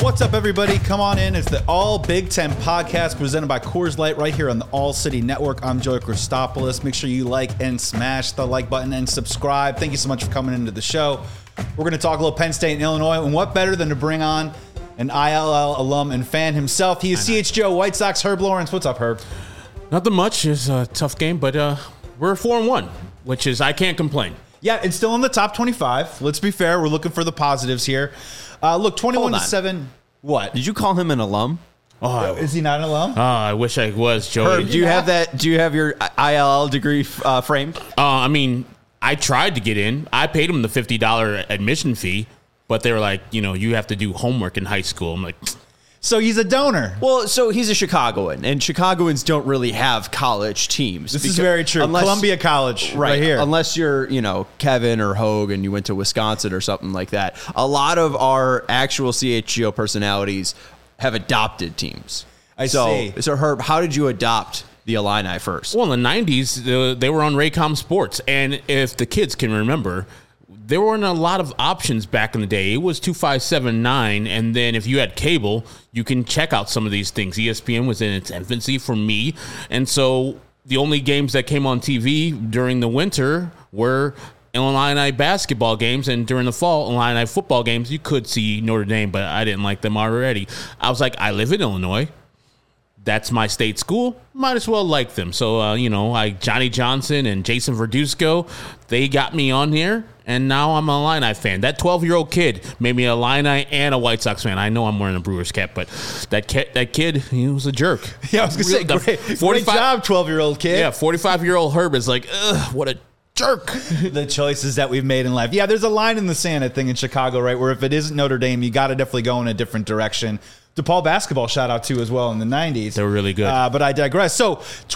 What's up, everybody? Come on in. It's the All Big Ten podcast presented by Coors Light right here on the All City Network. I'm Joey Christopoulos. Make sure you like and smash the like button and subscribe. Thank you so much for coming into the show. We're going to talk a little Penn State and Illinois, and what better than to bring on an ILL alum and fan himself. He is CHGO White Sox, Herb Lawrence. What's up, Herb? Nothing much. It's a tough game, but we're 4-1, which is, I can't complain. Yeah, it's still in the top 25. Let's be fair. We're looking for the positives here. Look, 21-7. What? Did you call him an alum? Oh, is he not an alum? Oh, I wish I was, Joey. Herb, do you have that? Do you have your ILL degree framed? I mean, I tried to get in. I paid him the $50 admission fee, but they were like, you have to do homework in high school. I'm like, so he's a donor. Well, so he's a Chicagoan, and Chicagoans don't really have college teams. This is very true. Columbia College, right here. Unless you're, Kevin or Hogue and you went to Wisconsin or something like that. A lot of our actual CHGO personalities have adopted teams. I see. So, Herb, how did you adopt the Illini first? Well, in the 90s, they were on Raycom Sports, and if the kids can remember, there weren't a lot of options back in the day. It was 2579, and then if you had cable, you can check out some of these things. ESPN was in its infancy for me, and so the only games that came on TV during the winter were Illini basketball games, and during the fall, Illini football games. You could see Notre Dame, but I didn't like them already. I was like, I live in Illinois. That's my state school. Might as well like them. So, Johnny Johnson and Jason Verduzco, they got me on here, and now I'm an Illini fan. That 12-year-old kid made me an Illini and a White Sox fan. I know I'm wearing a Brewers cap, but that kid, he was a jerk. Yeah, I was going to say, great job, 12-year-old kid. Yeah, 45-year-old Herb is like, ugh, what a jerk. The choices that we've made in life. Yeah, there's a line in the sand, I think, in Chicago, right, where if it isn't Notre Dame, you got to definitely go in a different direction. DePaul basketball shout out to as well in the 90s. They were really good. But I digress. So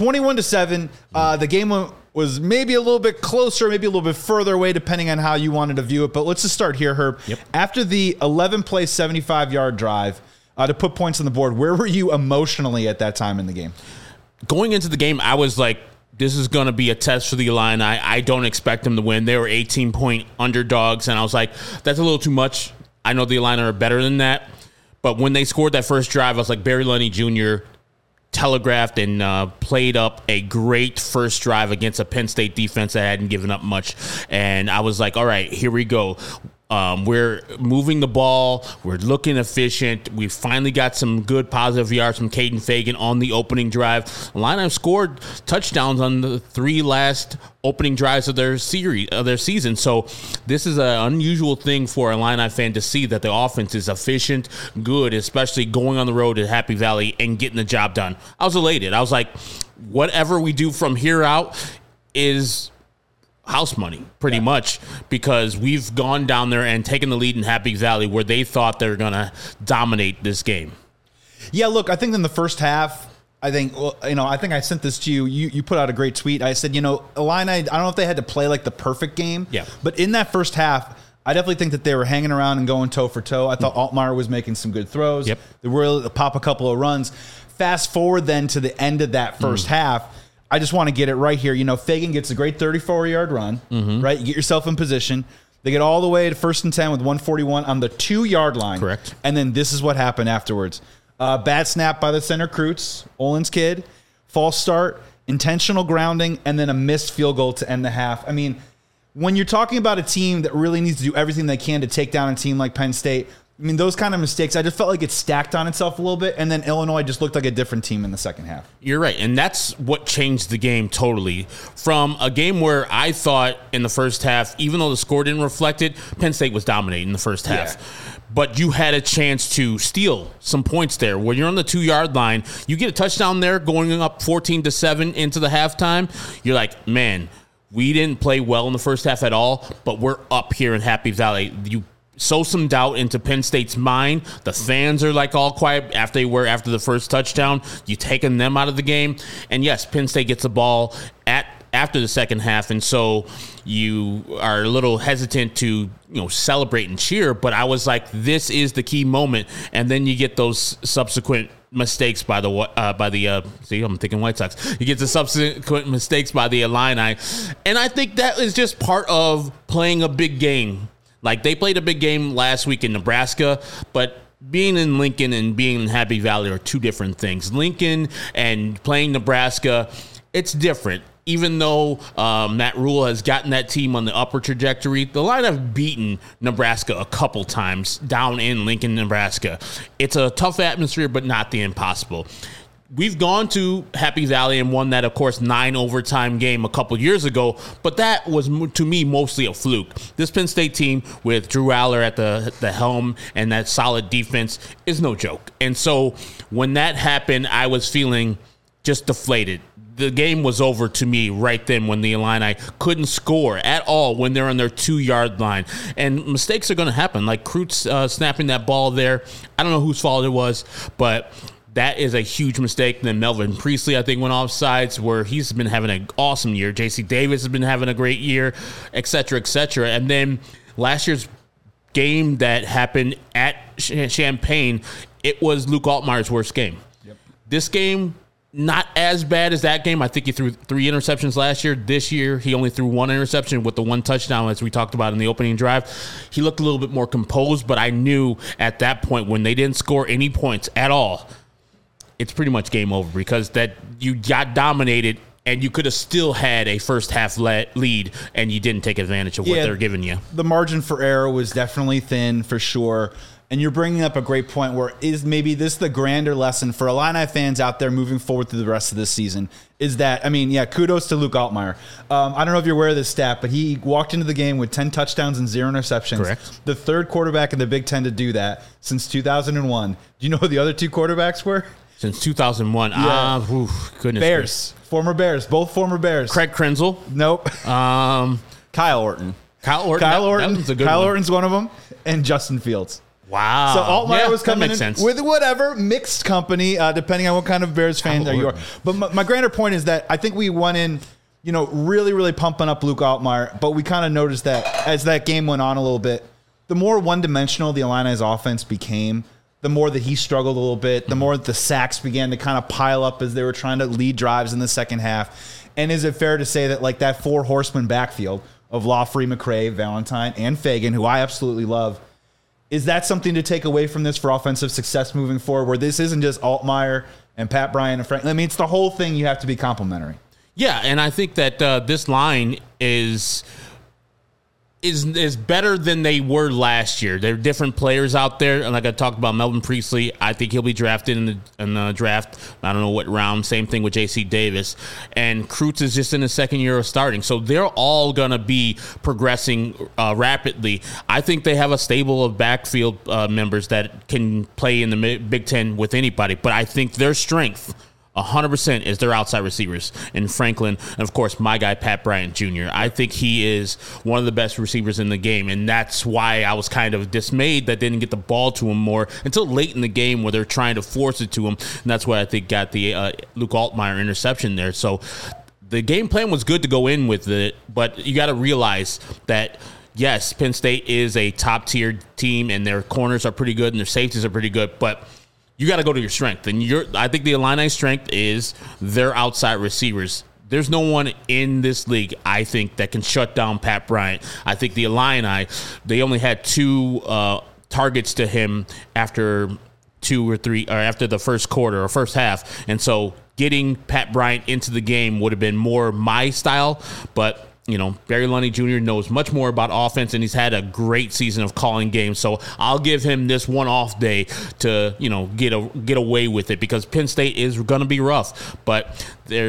21-7, the game was maybe a little bit closer, maybe a little bit further away, depending on how you wanted to view it. But let's just start here, Herb. Yep. After the 11-play, 75-yard drive to put points on the board, where were you emotionally at that time in the game? Going into the game, I was like, this is going to be a test for the Illini. I don't expect them to win. They were 18-point underdogs, and I was like, that's a little too much. I know the Illini are better than that. But when they scored that first drive, I was like, Barry Lunny Jr. telegraphed and played up a great first drive against a Penn State defense that hadn't given up much. And I was like, all right, here we go. We're moving the ball. We're looking efficient. We finally got some good positive yards from Caden Fagan on the opening drive. Illini scored touchdowns on the 3 last opening drives of their season. So this is an unusual thing for an Illini fan to see, that the offense is efficient, good, especially going on the road to Happy Valley and getting the job done. I was elated. I was like, whatever we do from here out is house money, pretty much, because we've gone down there and taken the lead in Happy Valley where they thought they were going to dominate this game. Yeah, look, I think in the first half, I think I sent this to you. You put out a great tweet. I said, Illini, I don't know if they had to play like the perfect game. Yeah. But in that first half, I definitely think that they were hanging around and going toe for toe. I thought Altmaier was making some good throws. Yep. They were able to pop a couple of runs. Fast forward then to the end of that first half. I just want to get it right here. Fagan gets a great 34-yard run, right? You get yourself in position. They get all the way to 1st and 10 with 141 on the 2-yard line. Correct. And then this is what happened afterwards. Bad snap by the center, Kreutz, Olin's kid, false start, intentional grounding, and then a missed field goal to end the half. I mean, when you're talking about a team that really needs to do everything they can to take down a team like Penn State, I mean, those kind of mistakes, I just felt like it stacked on itself a little bit, and then Illinois just looked like a different team in the second half. You're right, and that's what changed the game totally. From a game where I thought in the first half, even though the score didn't reflect it, Penn State was dominating in the first half. Yeah. But you had a chance to steal some points there. When you're on the 2-yard line, you get a touchdown there going up 14-7 into the halftime. You're like, man, we didn't play well in the first half at all, but we're up here in Happy Valley. You sow some doubt into Penn State's mind. The fans are like all quiet after the first touchdown. You taking them out of the game. And yes, Penn State gets the ball after the second half, and so you are a little hesitant to celebrate and cheer. But I was like, this is the key moment, and then you get those subsequent mistakes by the see, I'm thinking White Sox. You get the subsequent mistakes by the Illini, and I think that is just part of playing a big game. Like, they played a big game last week in Nebraska, but being in Lincoln and being in Happy Valley are two different things. Lincoln and playing Nebraska, it's different. Even though Matt Rule has gotten that team on the upward trajectory, the line have beaten Nebraska a couple times down in Lincoln, Nebraska. It's a tough atmosphere, but not the impossible. We've gone to Happy Valley and won that, of course, 9 overtime game a couple years ago, but that was, to me, mostly a fluke. This Penn State team with Drew Aller at the helm and that solid defense is no joke. And so when that happened, I was feeling just deflated. The game was over to me right then when the Illini couldn't score at all when they're on their 2-yard line. And mistakes are going to happen, like Kreutz snapping that ball there. I don't know whose fault it was, but that is a huge mistake. And then Melvin Priestley, I think, went off sides where he's been having an awesome year. J.C. Davis has been having a great year, et cetera, et cetera. And then last year's game that happened at Champaign, it was Luke Altmaier's worst game. Yep. This game, not as bad as that game. I think he threw 3 interceptions last year. This year, he only threw 1 interception with the 1 touchdown, as we talked about in the opening drive. He looked a little bit more composed, but I knew at that point when they didn't score any points at all, it's pretty much game over because that you got dominated and you could have still had a first half lead and you didn't take advantage of what they're giving you. The margin for error was definitely thin for sure. And you're bringing up a great point where is maybe this the grander lesson for Illini fans out there moving forward through the rest of this season is that, kudos to Luke Altmaier. I don't know if you're aware of this stat, but he walked into the game with 10 touchdowns and 0 interceptions. Correct. The third quarterback in the Big Ten to do that since 2001. Do you know who the other 2 quarterbacks were? Since 2001. Yeah. Goodness. Bears. Former Bears. Both former Bears. Craig Krenzel. Nope. Kyle Orton. Kyle Orton. Kyle Orton. That was a good Kyle one. Orton's one of them. And Justin Fields. Wow. So Altmaier was coming in sense. with whatever, mixed company, depending on what kind of Bears fan you are. But my grander point is that I think we went in, really, really pumping up Luke Altmaier, but we kind of noticed that as that game went on a little bit, the more one-dimensional the Illini's offense became, the more that he struggled a little bit, the more that the sacks began to kind of pile up as they were trying to lead drives in the second half. And is it fair to say that like that 4-horseman backfield of Lawfrey, McCray, Valentine, and Fagan, who I absolutely love, is that something to take away from this for offensive success moving forward, where this isn't just Altmaier and Pat Bryant and Frank? I mean, it's the whole thing. You have to be complimentary. Yeah, and I think that this line is better than they were last year. There are different players out there, and like I talked about, Melvin Priestley, I think he'll be drafted in the draft. I don't know what round. Same thing with J.C. Davis, and Kreutz is just in his second year of starting, so they're all gonna be progressing rapidly. I think they have a stable of backfield members that can play in the Big Ten with anybody, but I think their strength 100% is their outside receivers in Franklin, and of course my guy Pat Bryant Jr. I think he is one of the best receivers in the game, and that's why I was kind of dismayed that they didn't get the ball to him more until late in the game where they're trying to force it to him, and that's what I think got the Luke Altmaier interception there. So the game plan was good to go in with it, but you got to realize that yes, Penn State is a top tier team and their corners are pretty good and their safeties are pretty good, but you got to go to your strength. And I think the Illini's strength is their outside receivers. There's no one in this league, I think, that can shut down Pat Bryant. I think the Illini, they only had 2 targets to him after 2 or 3, or after the first quarter or first half. And so getting Pat Bryant into the game would have been more my style, but Barry Lundy Jr. knows much more about offense, and he's had a great season of calling games. So I'll give him this one off day to, get away with it, because Penn State is going to be rough. But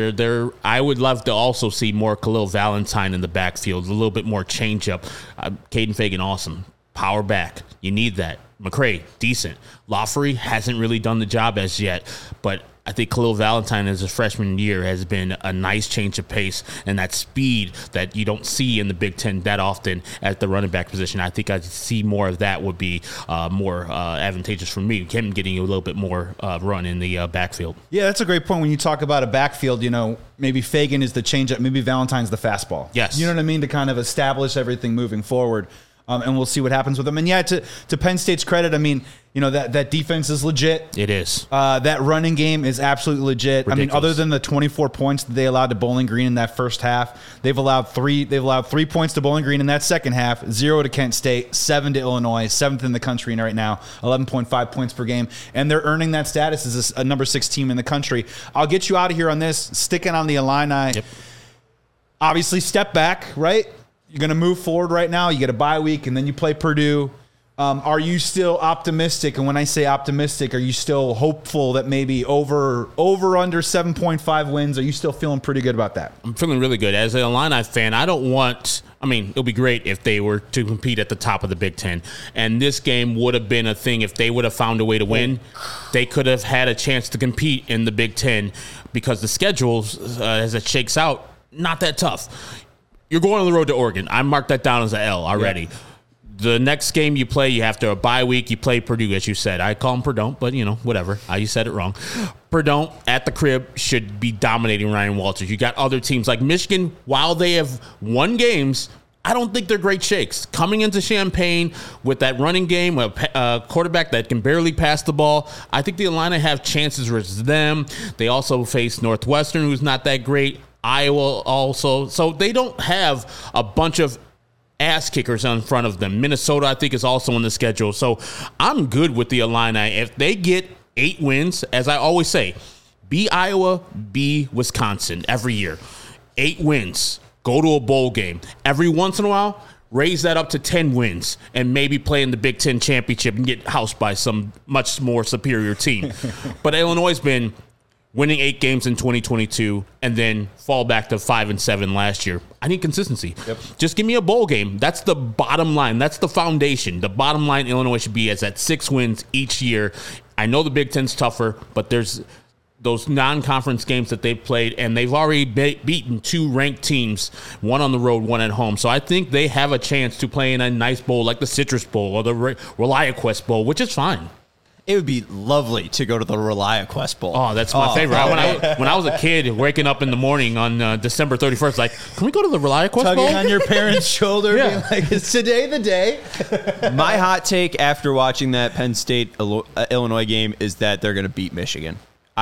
I would love to also see more Khalil Valentine in the backfield, a little bit more changeup. Caden Fagan, awesome. Power back. You need that. McCray, decent. Lawfrey hasn't really done the job as yet, but I think Khalil Valentine as a freshman year has been a nice change of pace, and that speed that you don't see in the Big Ten that often at the running back position. I think I'd see more of that would be more advantageous for me. Him getting a little bit more run in the backfield. Yeah, that's a great point. When you talk about a backfield, maybe Fagan is the changeup, maybe Valentine's the fastball. Yes. You know what I mean? To kind of establish everything moving forward. And we'll see what happens with them. And yeah, to Penn State's credit, I mean, You know, that defense is legit. It is. That running game is absolutely legit. Ridiculous. I mean, other than the 24 points that they allowed to Bowling Green in that first half, they've allowed 3 points to Bowling Green in that second half, 0 to Kent State, 7 to Illinois, 7th in the country right now, 11.5 points per game, and they're earning that status as a number 6 team in the country. I'll get you out of here on this, sticking on the Illini. Yep. Obviously, step back, right? You're going to move forward right now. You get a bye week, and then you play Purdue. Are you still optimistic? And when I say optimistic, are you still hopeful that maybe over under 7.5 wins? Are you still feeling pretty good about that? I'm feeling really good. As an Illini fan, it'll be great if they were to compete at the top of the Big Ten. And this game would have been a thing if they would have found a way to win. They could have had a chance to compete in the Big Ten because the schedules, as it shakes out, not that tough. You're going on the road to Oregon. I marked that down as an L already. Yeah. The next game you play, you have to a bye week. You play Purdue, as you said. I call them Purdue, but whatever. You said it wrong. Purdue at the crib should be dominating Ryan Walters. You got other teams like Michigan. While they have won games, I don't think they're great shakes. Coming into Champaign with that running game, a quarterback that can barely pass the ball, I think the Illini have chances versus them. They also face Northwestern, who's not that great. Iowa also. So they don't have a bunch of ass kickers in front of them. Minnesota, I think, is also on the schedule. So I'm good with the Illini. If they get 8 wins, as I always say, be Iowa, be Wisconsin every year. 8 wins. Go to a bowl game. Every once in a while, raise that up to 10 wins and maybe play in the Big Ten championship and get housed by some much more superior team. But Illinois has been winning 8 games in 2022 and then fall back to 5-7 last year. I need consistency. Yep. Just give me a bowl game. That's the bottom line. That's the foundation. The bottom line Illinois should be is at 6 wins each year. I know the Big Ten's tougher, but there's those non-conference games that they've played, and they've already beaten 2 ranked teams, one on the road, one at home. So I think they have a chance to play in a nice bowl like the Citrus Bowl or the ReliaQuest Bowl, which is fine. It would be lovely to go to the ReliaQuest Bowl. Oh, that's my favorite. When I was a kid, waking up in the morning on December 31st, like, can we go to the ReliaQuest Bowl? Tugging on your parents' shoulder, Yeah. being like, is today the day? My hot take after watching that Penn State Illinois game is that they're going to beat Michigan.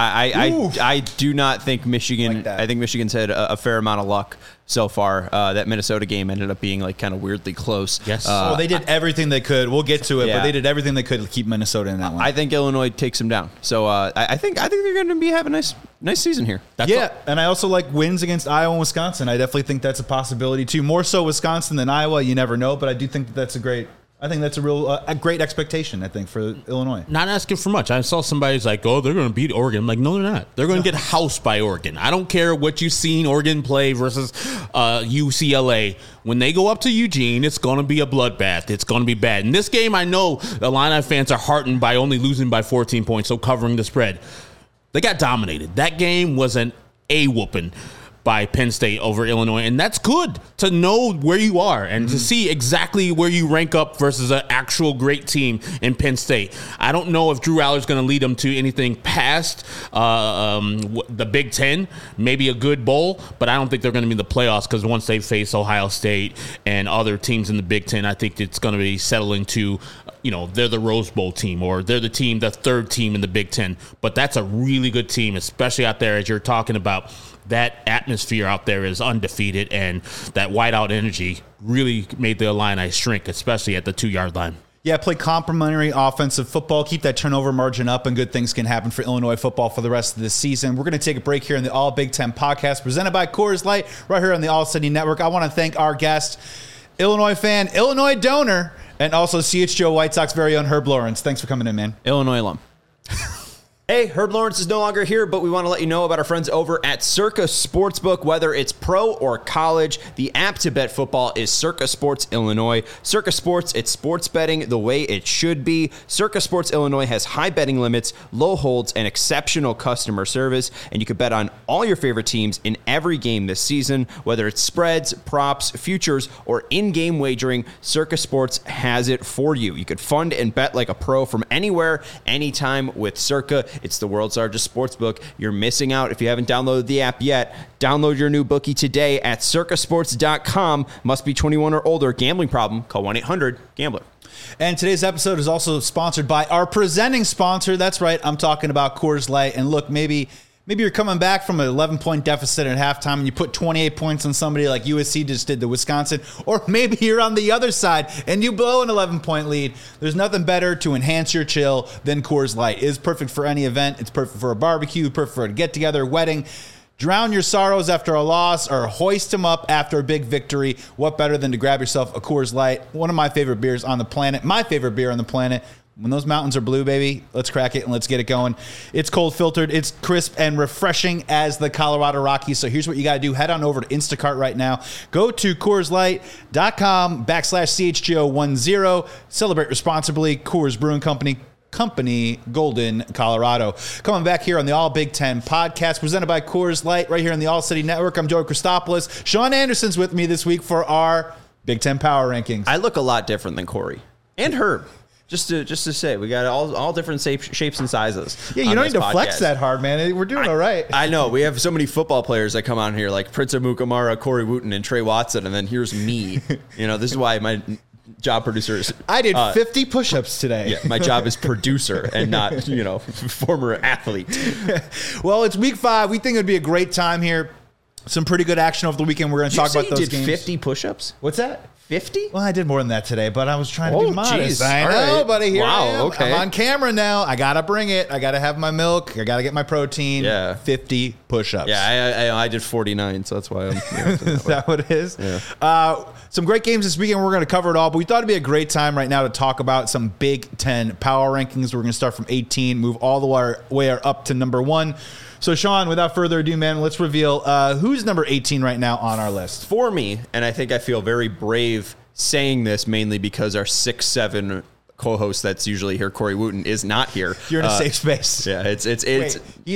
I do not think Michigan. Like that. I think Michigan's had a fair amount of luck so far. That Minnesota game ended up being like kind of weirdly close. Yes. Well, they did everything they could. We'll get to it, Yeah. but they did everything they could to keep Minnesota in that one. I think Illinois takes them down. So I think they're going to be having a nice season here. And I also like wins against Iowa and Wisconsin. I definitely think that's a possibility too. More so Wisconsin than Iowa. You never know, but I do think that's a great great expectation, I think, for Illinois. Not asking for much. I saw somebody's like, oh, they're going to beat Oregon. I'm like, no, they're not. They're going to get housed by Oregon. I don't care what you've seen Oregon play versus UCLA. When they go up to Eugene, it's going to be a bloodbath. It's going to be bad. In this game, I know Illini fans are heartened by only losing by 14 points, so covering the spread. They got dominated. That game was an A-whooping by Penn State over Illinois, and that's good to know where you are and to see exactly where you rank up versus an actual great team in Penn State. I don't know if Drew Aller's going to lead them to anything past the Big Ten, maybe a good bowl, but I don't think they're going to be in the playoffs because once they face Ohio State and other teams in the Big Ten, I think it's going to be settling to, they're the Rose Bowl team or they're the third team in the Big Ten. But that's a really good team, especially out there as you're talking about. That atmosphere out there is undefeated, and that whiteout energy really made the Illini shrink, especially at the 2-yard line. Yeah, play complimentary offensive football. Keep that turnover margin up, and good things can happen for Illinois football for the rest of the season. We're going to take a break here in the All Big Ten podcast presented by Coors Light right here on the All City Network. I want to thank our guest, Illinois fan, Illinois donor, and also CHGO White Sox very own Herb Lawrence. Thanks for coming in, man. Illinois alum. Hey, Herb Lawrence is no longer here, but we want to let you know about our friends over at Circa Sportsbook. Whether it's pro or college, the app to bet football is Circa Sports Illinois. Circa Sports, it's sports betting the way it should be. Circa Sports Illinois has high betting limits, low holds, and exceptional customer service, and you can bet on all your favorite teams in every game this season. Whether it's spreads, props, futures, or in-game wagering, Circa Sports has it for you. You could fund and bet like a pro from anywhere, anytime with Circa. It's the world's largest sportsbook. You're missing out if you haven't downloaded the app yet. Download your new bookie today at circasports.com. Must be 21 or older. Gambling problem? Call 1-800-GAMBLER. And today's episode is also sponsored by our presenting sponsor. That's right, I'm talking about Coors Light. And look, maybe you're coming back from an 11-point deficit at halftime and you put 28 points on somebody like USC just did to Wisconsin. Or maybe you're on the other side and you blow an 11-point lead. There's nothing better to enhance your chill than Coors Light. It is perfect for any event. It's perfect for a barbecue, perfect for a get-together, wedding. Drown your sorrows after a loss or hoist them up after a big victory. What better than to grab yourself a Coors Light? One of my favorite beers on the planet. My favorite beer on the planet. When those mountains are blue, baby, let's crack it and let's get it going. It's cold filtered. It's crisp and refreshing as the Colorado Rockies. So here's what you got to do. Head on over to Instacart right now. Go to CoorsLight.com/CHGO10. Celebrate responsibly. Coors Brewing Company, Golden, Colorado. Coming back here on the All Big Ten podcast presented by Coors Light right here on the All City Network. I'm Joey Christopoulos. Sean Anderson's with me this week for our Big Ten Power Rankings. I look a lot different than Corey and Herb. Just to say, we got all different shapes and sizes. Yeah, you don't need to flex that hard, man. We're doing all right. I know. We have so many football players that come on here, like Prince Amukamara, Corey Wooten, and Trey Watson, and then here's me. This is why my job producer is... I did 50 push-ups today. Yeah, my job is producer and not, former athlete. Well, it's week 5. We think it would be a great time here. Some pretty good action over the weekend. We're going to talk about those games. 50 push-ups? What's that? 50? Well, I did more than that today, but I was trying to be modest. Geez. I know, right. buddy. Here I am. Wow, okay. I'm on camera now. I got to bring it. I got to have my milk. I got to get my protein. Yeah. 50 push-ups. Yeah, I did 49, so that's why I'm... Is that what it is? Yeah. Some great games this weekend. We're going to cover it all, but we thought it'd be a great time right now to talk about some Big Ten power rankings. We're going to start from 18, move all the way up to number 1. So, Sean, without further ado, man, let's reveal who's number 18 right now on our list. For me, and I think I feel very brave saying this mainly because our 6'7" co-host that's usually here, Corey Wooten, is not here. You're in a safe space. Yeah, it's Wait,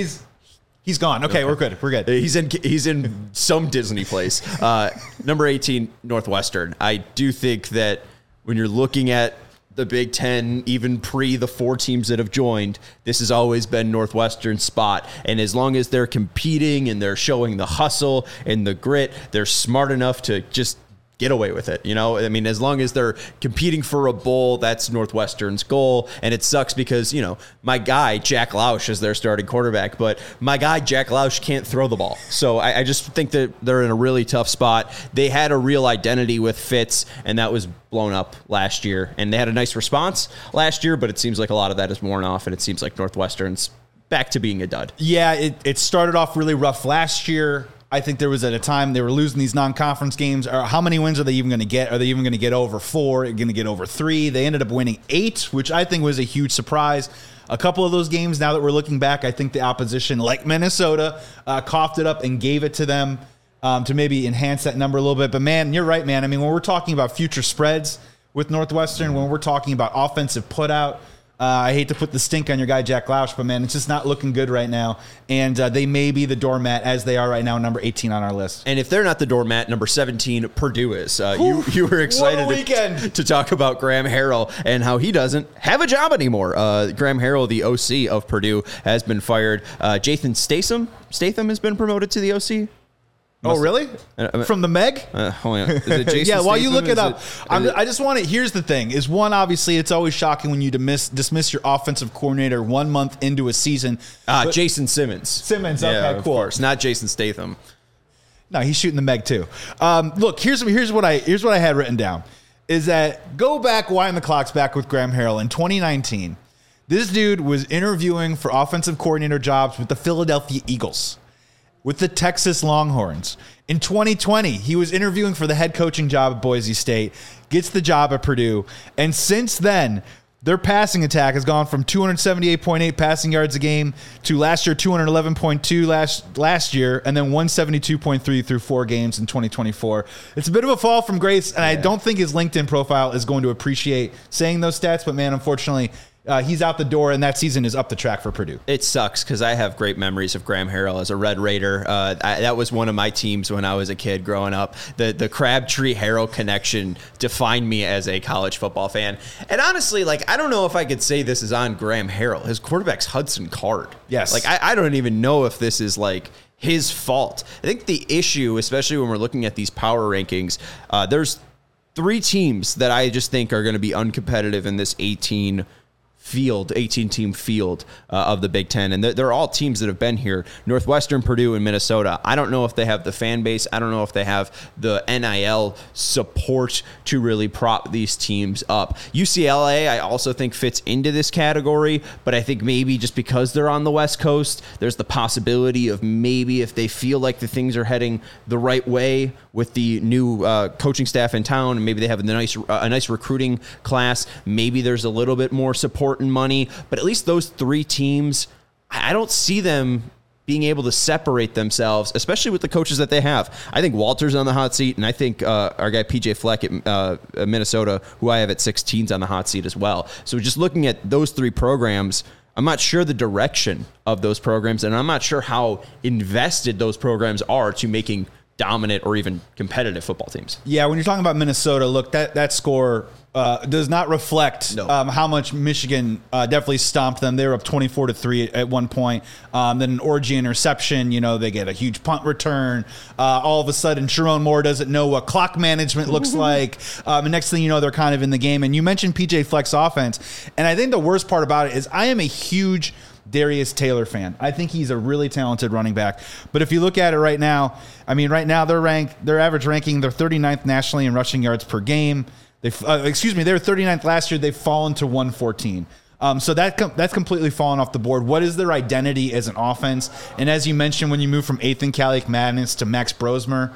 he's gone. Okay, we're good. We're good. He's in some Disney place. Number 18, Northwestern. I do think that when you're looking at the Big Ten, even pre the 4 teams that have joined, this has always been Northwestern's spot. And as long as they're competing and they're showing the hustle and the grit, they're smart enough to just get away with it. As long as they're competing for a bowl, that's Northwestern's goal. And it sucks because, my guy, Jack Lausch, is their starting quarterback, but my guy, Jack Lausch, can't throw the ball. So I just think that they're in a really tough spot. They had a real identity with Fitz, and that was blown up last year. And they had a nice response last year, but it seems like a lot of that is worn off, and it seems like Northwestern's back to being a dud. Yeah, it started off really rough last year. I think there was at a time they were losing these non-conference games. Or how many wins are they even going to get? Are they even going to get over 4? Are they going to get over 3? They ended up winning 8, which I think was a huge surprise. A couple of those games, now that we're looking back, I think the opposition, like Minnesota, coughed it up and gave it to them to maybe enhance that number a little bit. But, man, you're right, man. When we're talking about future spreads with Northwestern, when we're talking about offensive put-out, I hate to put the stink on your guy, Jack Lausch, but, man, it's just not looking good right now. And they may be the doormat as they are right now, number 18 on our list. And if they're not the doormat, number 17, Purdue is. You were excited to talk about Graham Harrell and how he doesn't have a job anymore. Graham Harrell, the OC of Purdue, has been fired. Jathan Statham has been promoted to the OC. Oh, really? From the Meg? Hold on. Is it Jason yeah, while Statham? you look it up, I just want to, here's the thing, is one, obviously, it's always shocking when you dismiss your offensive coordinator 1 month into a season. Jason Simmons. Simmons, okay, yeah, cool. Of course, not Jason Statham. No, he's shooting the Meg, too. Look, here's what I had written down, is that go back, wind the clocks back with Graham Harrell in 2019. This dude was interviewing for offensive coordinator jobs with the Philadelphia Eagles, with the Texas Longhorns. In 2020, he was interviewing for the head coaching job at Boise State, gets the job at Purdue, and since then, their passing attack has gone from 278.8 passing yards a game to last year 211.2 last year, and then 172.3 through 4 games in 2024. It's a bit of a fall from grace, and I don't think his LinkedIn profile is going to appreciate saying those stats, but man, unfortunately, he's out the door, and that season is up the track for Purdue. It sucks because I have great memories of Graham Harrell as a Red Raider. That was one of my teams when I was a kid growing up. The Crabtree-Harrell connection defined me as a college football fan. And honestly, I don't know if I could say this is on Graham Harrell. His quarterback's Hudson Card. Yes. I don't even know if this is his fault. I think the issue, especially when we're looking at these power rankings, there's three teams that I just think are going to be uncompetitive in this 18 team field of the Big Ten. And they're all teams that have been here: Northwestern, Purdue, and Minnesota. I don't know if they have the fan base. I don't know if they have the NIL support to really prop these teams up. UCLA, I also think, fits into this category, but I think maybe just because they're on the West Coast, there's the possibility of maybe if they feel like the things are heading the right way with the new coaching staff in town, and maybe they have a nice recruiting class, maybe there's a little bit more support and money. But at least those three teams, I don't see them being able to separate themselves, especially with the coaches that they have. I think Walter's on the hot seat, and I think our guy PJ Fleck at Minnesota, who I have at 16, is on the hot seat as well. So just looking at those three programs, I'm not sure the direction of those programs, and I'm not sure how invested those programs are to making dominant or even competitive football teams. Yeah, when you're talking about Minnesota, look, that score does not reflect how much Michigan definitely stomped them. They were up 24-3 at one point. Then an Orji interception, they get a huge punt return. All of a sudden, Sharon Moore doesn't know what clock management looks like. And next thing you know, they're kind of in the game. And you mentioned PJ Fleck's offense. And I think the worst part about it is I am a huge Darius Taylor fan. I think he's a really talented running back. But if you look at it right now, their average ranking, they're 39th nationally in rushing yards per game. They were 39th last year. They've fallen to 114. So that's completely fallen off the board. What is their identity as an offense? And as you mentioned, when you move from Ethan Kaliak-Madness to Max Brosmer,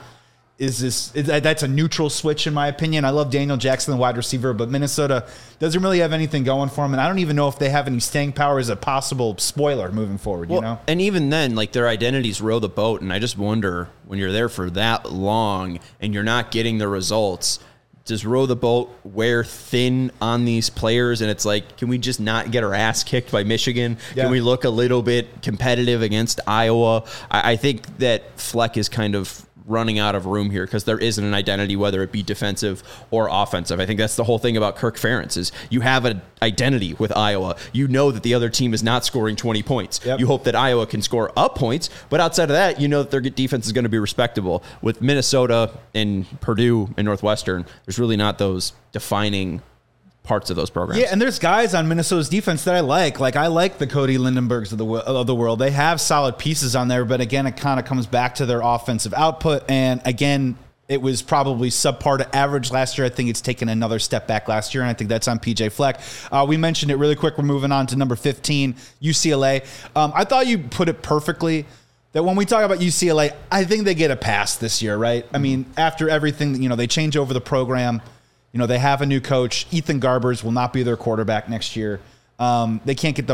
that's a neutral switch in my opinion. I love Daniel Jackson, the wide receiver, but Minnesota doesn't really have anything going for them, and I don't even know if they have any staying power as a possible spoiler moving forward. And even then, their identities row the boat, and I just wonder, when you're there for that long and you're not getting the results, does row the boat wear thin on these players? And it's like, can we just not get our ass kicked by Michigan? Yeah. Can we look a little bit competitive against Iowa? I think that Fleck is kind of running out of room here because there isn't an identity, whether it be defensive or offensive. I think that's the whole thing about Kirk Ferentz is you have an identity with Iowa. You know that the other team is not scoring 20 points. Yep. You hope that Iowa can score up points, but outside of that, you know that their defense is going to be respectable. With Minnesota and Purdue and Northwestern, there's really not those defining parts of those programs. Yeah, and there's guys on Minnesota's defense that I like. I like the Cody Lindenbergs of the world. They have solid pieces on there, but again, it kind of comes back to their offensive output. And again, it was probably subpar to average last year. I think it's taken another step back last year, and I think that's on PJ Fleck. We mentioned it really quick. We're moving on to number 15, UCLA. I thought you put it perfectly that when we talk about UCLA, I think they get a pass this year, right? I mean, after everything, they change over the program. They have a new coach. Ethan Garbers will not be their quarterback next year. They can't get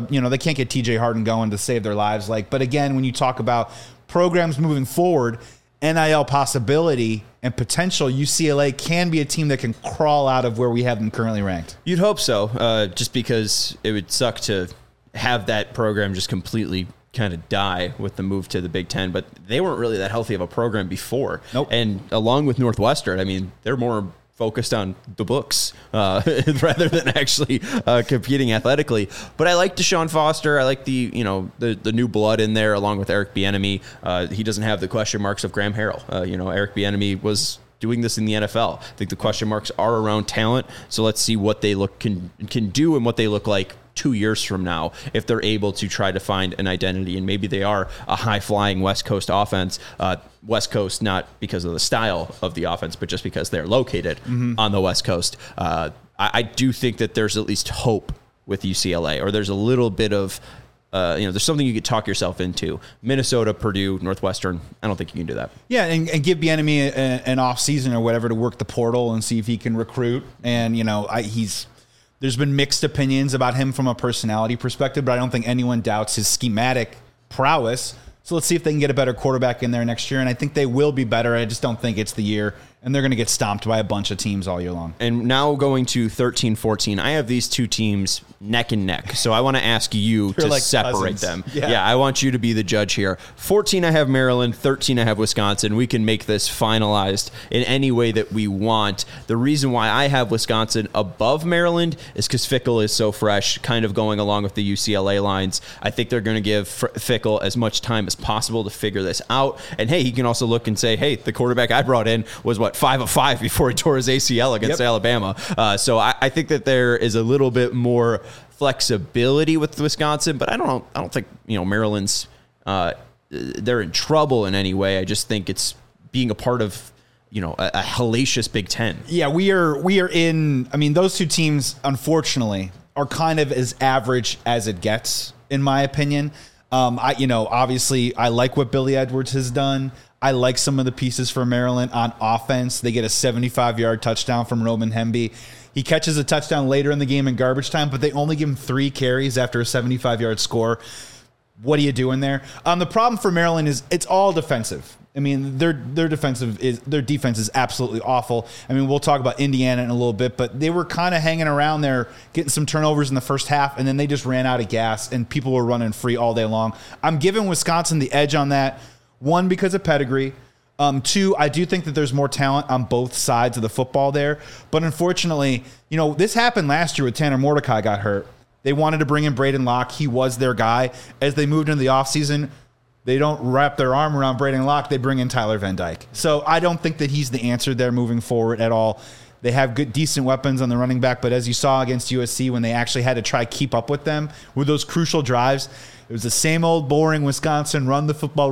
TJ Harden going to save their lives. But again, when you talk about programs moving forward, NIL possibility and potential, UCLA can be a team that can crawl out of where we have them currently ranked. You'd hope so, just because it would suck to have that program just completely kind of die with the move to the Big Ten, but they weren't really that healthy of a program before. Nope. And along with Northwestern, they're more focused on the books rather than actually competing athletically. But I like Deshaun Foster. I like the new blood in there, along with Eric Bieniemy. He doesn't have the question marks of Graham Harrell. Eric Bieniemy was doing this in the NFL. I think the question marks are around talent. So let's see what they can do and what they look like 2 years from now if they're able to try to find an identity, and maybe they are a high-flying West Coast offense. West Coast, not because of the style of the offense, but just because they're located on the West Coast. I do think that there's at least hope with UCLA, or there's a little bit of there's something you could talk yourself into. Minnesota, Purdue, Northwestern, I don't think you can do that. Yeah, and give Bieniemy an off season or whatever to work the portal and see if he can recruit. And there's been mixed opinions about him from a personality perspective, but I don't think anyone doubts his schematic prowess. So let's see if they can get a better quarterback in there next year. And I think they will be better. I just don't think it's the year. And they're going to get stomped by a bunch of teams all year long. And now going to 13-14, I have these two teams neck and neck. So I want to ask you to separate them. Yeah, I want you to be the judge here. 14, I have Maryland. 13, I have Wisconsin. We can make this finalized in any way that we want. The reason why I have Wisconsin above Maryland is because Fickell is so fresh, kind of going along with the UCLA lines. I think they're going to give Fickell as much time as possible to figure this out. And hey, he can also look and say, hey, the quarterback I brought in was 5 of 5 before he tore his ACL against Alabama. So I think that there is a little bit more flexibility with Wisconsin, but I don't think Maryland's they're in trouble in any way. I just think it's being a part of a hellacious Big Ten. Yeah, we are in. I mean, those two teams, unfortunately, are kind of as average as it gets, in my opinion. Obviously, I like what Billy Edwards has done. I like some of the pieces for Maryland on offense. They get a 75-yard touchdown from Roman Hemby. He catches a touchdown later in the game in garbage time, but they only give him 3 carries after a 75-yard score. What are you doing there? The problem for Maryland is it's all defensive. I mean, their defense is absolutely awful. I mean, we'll talk about Indiana in a little bit, but they were kind of hanging around there, getting some turnovers in the first half, and then they just ran out of gas, and people were running free all day long. I'm giving Wisconsin the edge on that. 1, because of pedigree. 2, I do think that there's more talent on both sides of the football there. But unfortunately, this happened last year with Tanner Mordecai got hurt. They wanted to bring in Braden Locke. He was their guy. As they moved into the offseason, they don't wrap their arm around Braden Locke. They bring in Tyler Van Dyke. So I don't think that he's the answer there moving forward at all. They have good, decent weapons on the running back, but as you saw against USC when they actually had to try keep up with them with those crucial drives, it was the same old boring Wisconsin, run the football,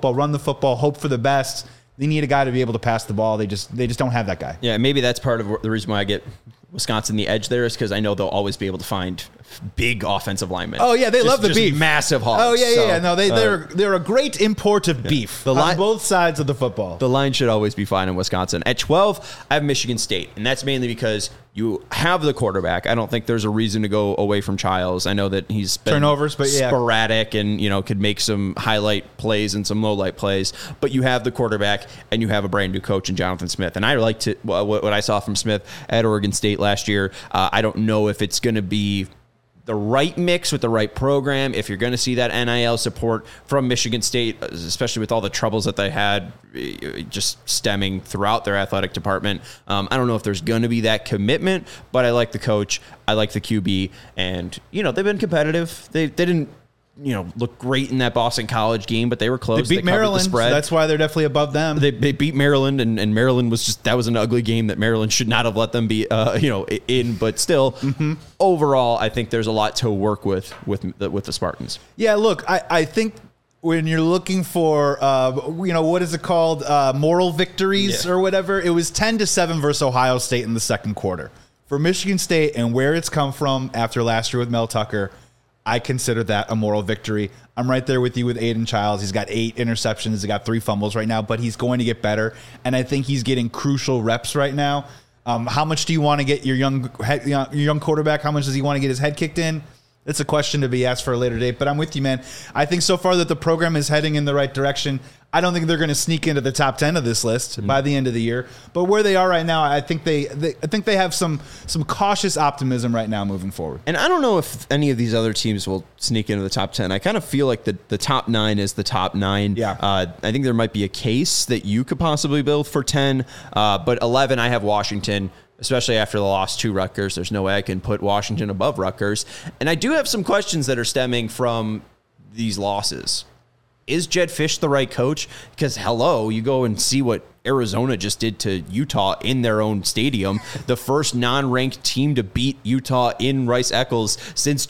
hope for the best. They need a guy to be able to pass the ball. They just don't have that guy. Yeah, maybe that's part of the reason why I get Wisconsin the edge there is because I know they'll always be able to find big offensive linemen. Oh yeah, they love the beef, massive hogs. Oh yeah. No, they're a great import of beef on both sides of the football. The line should always be fine in Wisconsin. At 12, I have Michigan State, and that's mainly because you have the quarterback. I don't think there's a reason to go away from Childs. I know that he's been turnovers, but sporadic and could make some highlight plays and some low light plays. But you have the quarterback, and you have a brand new coach in Jonathan Smith. And I liked what I saw from Smith at Oregon State last year. I don't know if it's going to be the right mix with the right program. If you're going to see that NIL support from Michigan State, especially with all the troubles that they had just stemming throughout their athletic department, I don't know if there's going to be that commitment, but I like the coach. I like the QB, and they've been competitive. They didn't look great in that Boston College game, but they were close. They beat Maryland, the spread. So that's why they're definitely above them. They beat Maryland, and Maryland that was an ugly game that Maryland should not have let them be, in. But still, overall, I think there's a lot to work with the Spartans. Yeah, look, I think when you're looking for, what is it called, moral victories or whatever, it was 10-7 versus Ohio State in the second quarter. For Michigan State and where it's come from after last year with Mel Tucker, I consider that a moral victory. I'm right there with you with Aiden Childs. He's got 8 interceptions. He's got 3 fumbles right now, but he's going to get better. And I think he's getting crucial reps right now. How much do you want to get your young quarterback? How much does he want to get his head kicked in? It's a question to be asked for a later date, but I'm with you, man. I think so far that the program is heading in the right direction. I don't think they're going to sneak into the top 10 of this list by the end of the year, but where they are right now, I think they have some cautious optimism right now moving forward. And I don't know if any of these other teams will sneak into the top 10. I kind of feel like the top 9 is the top 9. Yeah. I think there might be a case that you could possibly build for 10, but 11, I have Washington. Especially after the loss to Rutgers. There's no way I can put Washington above Rutgers. And I do have some questions that are stemming from these losses. Is Jedd Fisch the right coach? Because, you go and see what Arizona just did to Utah in their own stadium. The first non-ranked team to beat Utah in Rice-Eccles since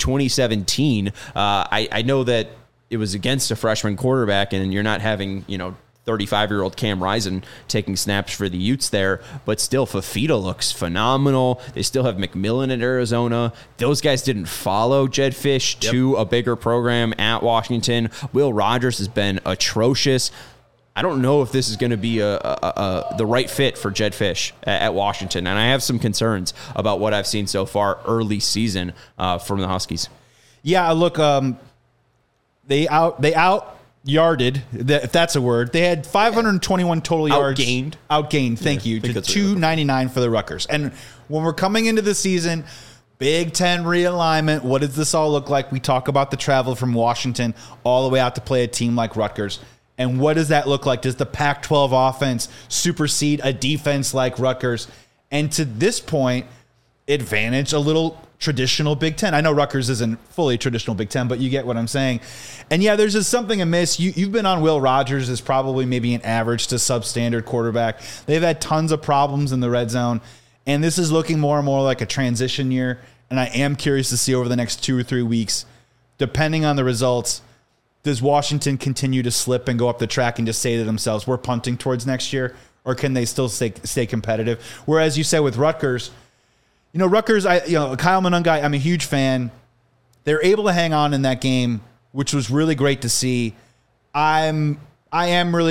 2017. I know that it was against a freshman quarterback, and you're not having, 35-year-old Cam Rising taking snaps for the Utes there, but still Fafita looks phenomenal. They still have McMillan at Arizona. Those guys didn't follow Jedd Fisch to a bigger program at Washington. Will Rogers has been atrocious. I don't know if this is going to be the right fit for Jedd Fisch at Washington, and I have some concerns about what I've seen so far early season from the Huskies. Yeah, look, they out yarded, if that's a word. They had 521 total yards. Outgained, thank you, to 299 for the Rutgers. And when we're coming into the season, Big Ten realignment, what does this all look like? We talk about the travel from Washington all the way out to play a team like Rutgers. And what does that look like? Does the Pac-12 offense supersede a defense like Rutgers? And to this point, advantage a little traditional Big Ten. I know Rutgers isn't fully traditional Big Ten, but you get what I'm saying. And yeah, there's just something amiss. You've been on Will Rogers as probably maybe an average to substandard quarterback. They've had tons of problems in the red zone, and this is looking more and more like a transition year. And I am curious to see over the next 2 or 3 weeks, depending on the results, does Washington continue to slip and go up the track and just say to themselves, we're punting towards next year, or can they still stay competitive? Whereas you said with Rutgers, Rutgers, Kyle Monangai, I'm a huge fan. They're able to hang on in that game, which was really great to see. I'm not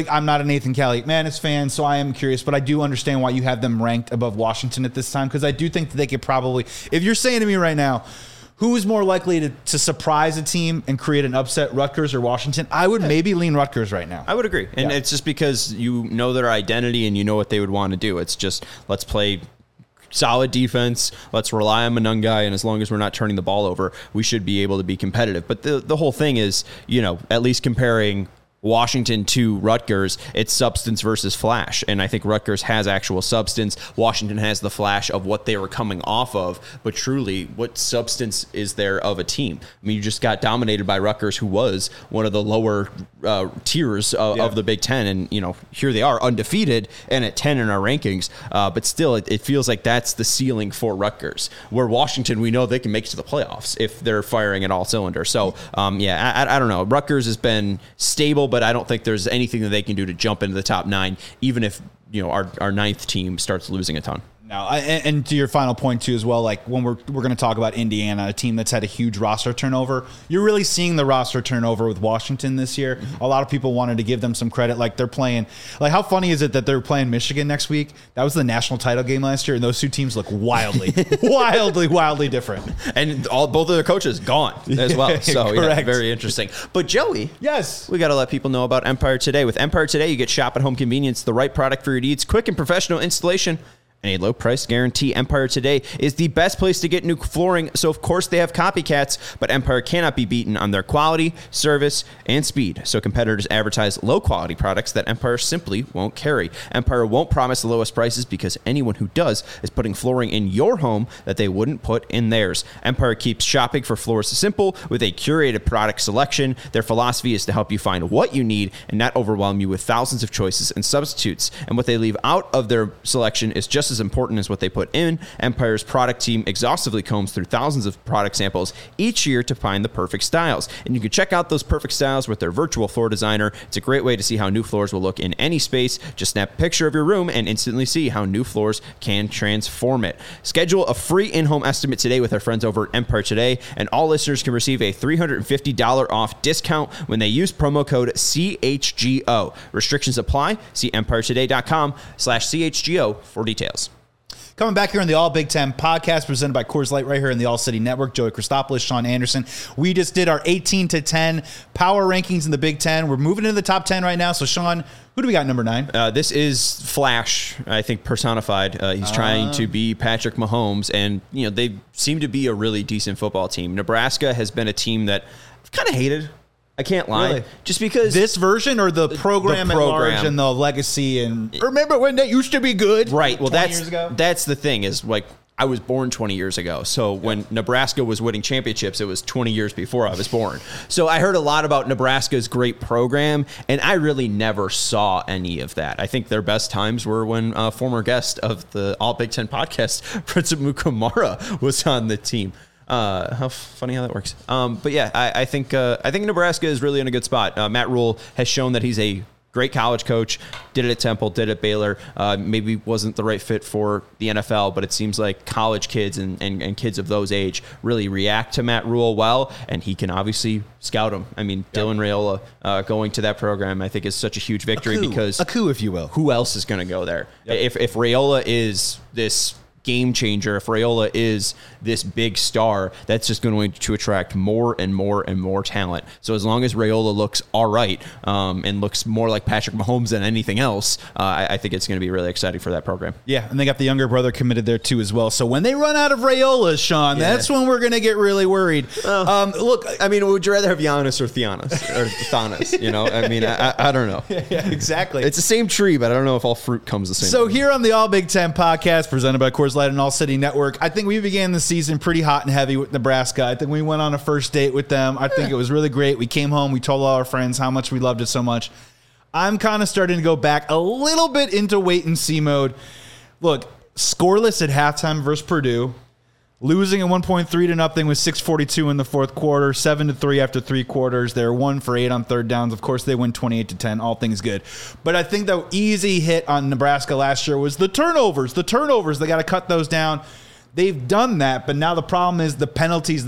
a Nathan Caliac-Manis fan, so I am curious, but I do understand why you have them ranked above Washington at this time, because I do think that they could probably, if you're saying to me right now, who is more likely to surprise a team and create an upset, Rutgers or Washington? I would maybe lean Rutgers right now. I would agree. And it's just because you know their identity and you know what they would want to do. It's just, let's play solid defense. Let's rely on Monangai, and as long as we're not turning the ball over, we should be able to be competitive. But the whole thing is, at least comparing Washington to Rutgers, it's substance versus flash. And I think Rutgers has actual substance. Washington has the flash of what they were coming off of. But truly, what substance is there of a team? I mean, you just got dominated by Rutgers, who was one of the lower tiers of the Big Ten. And, here they are undefeated and at 10 in our rankings. But still, it feels like that's the ceiling for Rutgers. Where Washington, we know they can make it to the playoffs if they're firing at all cylinders. So, I don't know. Rutgers has been stable, but I don't think there's anything that they can do to jump into the top 9, even if our ninth team starts losing a ton. No, and to your final point too, as well, like when we're going to talk about Indiana, a team that's had a huge roster turnover, you're really seeing the roster turnover with Washington this year. Mm-hmm. A lot of people wanted to give them some credit, like they're playing. Like, how funny is it that they're playing Michigan next week? That was the national title game last year, and those two teams look wildly different. And both of their coaches gone as well. So Correct. Very interesting. But Joey, yes, we got to let people know about Empire Today. With Empire Today, you get shop at home convenience, the right product for your needs, quick and professional installation, and a low price guarantee. Empire Today is the best place to get new flooring, so of course they have copycats, but Empire cannot be beaten on their quality, service, and speed. So competitors advertise low quality products that Empire simply won't carry. Empire won't promise the lowest prices, because anyone who does is putting flooring in your home that they wouldn't put in theirs. Empire keeps shopping for floors simple with a curated product selection. Their philosophy is to help you find what you need and not overwhelm you with thousands of choices and substitutes. And what they leave out of their selection is just as important as what they put in. Empire's product team exhaustively combs through thousands of product samples each year to find the perfect styles. And you can check out those perfect styles with their virtual floor designer. It's a great way to see how new floors will look in any space. Just snap a picture of your room and instantly see how new floors can transform it. Schedule a free in-home estimate today with our friends over at Empire Today, and all listeners can receive a $350 off discount when they use promo code CHGO. Restrictions apply. See EmpireToday.com/CHGO for details. Coming back here on the All Big Ten podcast presented by Coors Light right here in the All City Network. Joey Christopoulos, Sean Anderson. We just did our 18 to 10 power rankings in the Big Ten. We're moving into the top 10 right now. So, Sean, who do we got number 9? This is Flash, I think, personified. He's trying to be Patrick Mahomes, and they seem to be a really decent football team. Nebraska has been a team that I've kind of hated. I can't lie. Really? Just because this version or the program at large and the legacy, and remember when that used to be good? Right. Well, 20 years ago? That's the thing is, like, I was born 20 years ago. So when Nebraska was winning championships, it was 20 years before I was born. So I heard a lot about Nebraska's great program, and I really never saw any of that. I think their best times were when a former guest of the All Big Ten podcast, Prince Mukamara, was on the team. How funny how that works. But yeah, I think Nebraska is really in a good spot. Matt Rule has shown that he's a great college coach. Did it at Temple, did it at Baylor. Maybe wasn't the right fit for the NFL, but it seems like college kids and kids of those age really react to Matt Rule well, and he can obviously scout them. I mean, Dylan Raiola going to that program, I think, is such a huge victory because a coup, if you will. Who else is going to go there? Yep. If Raiola is this game changer, if Raiola is this big star, that's just going to attract more and more and more talent. So as long as Raiola looks all right and looks more like Patrick Mahomes than anything else, I think it's going to be really exciting for that program. Yeah, and they got the younger brother committed there too as well. So when they run out of Raiolas, Sean, that's when we're going to get really worried. Look, I mean, would you rather have Giannis or Thanos? You know, I mean, I don't know. Yeah, exactly. It's the same tree, but I don't know if all fruit comes the same. So here on the All Big Ten podcast presented by Coors Coors Light on All City Network. I think we began the season pretty hot and heavy with Nebraska. I think we went on a first date with them. I think it was really great. We came home. We told all our friends how much we loved it so much. I'm kind of starting to go back a little bit into wait and see mode. Look, scoreless at halftime versus Purdue. Losing at 1.3 to nothing with 6:42 in the fourth quarter, 7-3 after 3 quarters. They're 1 for 8 on third downs. Of course, they win 28-10. All things good. But I think the easy hit on Nebraska last year was the turnovers. The turnovers, they got to cut those down. They've done that, but now the problem is the penalties.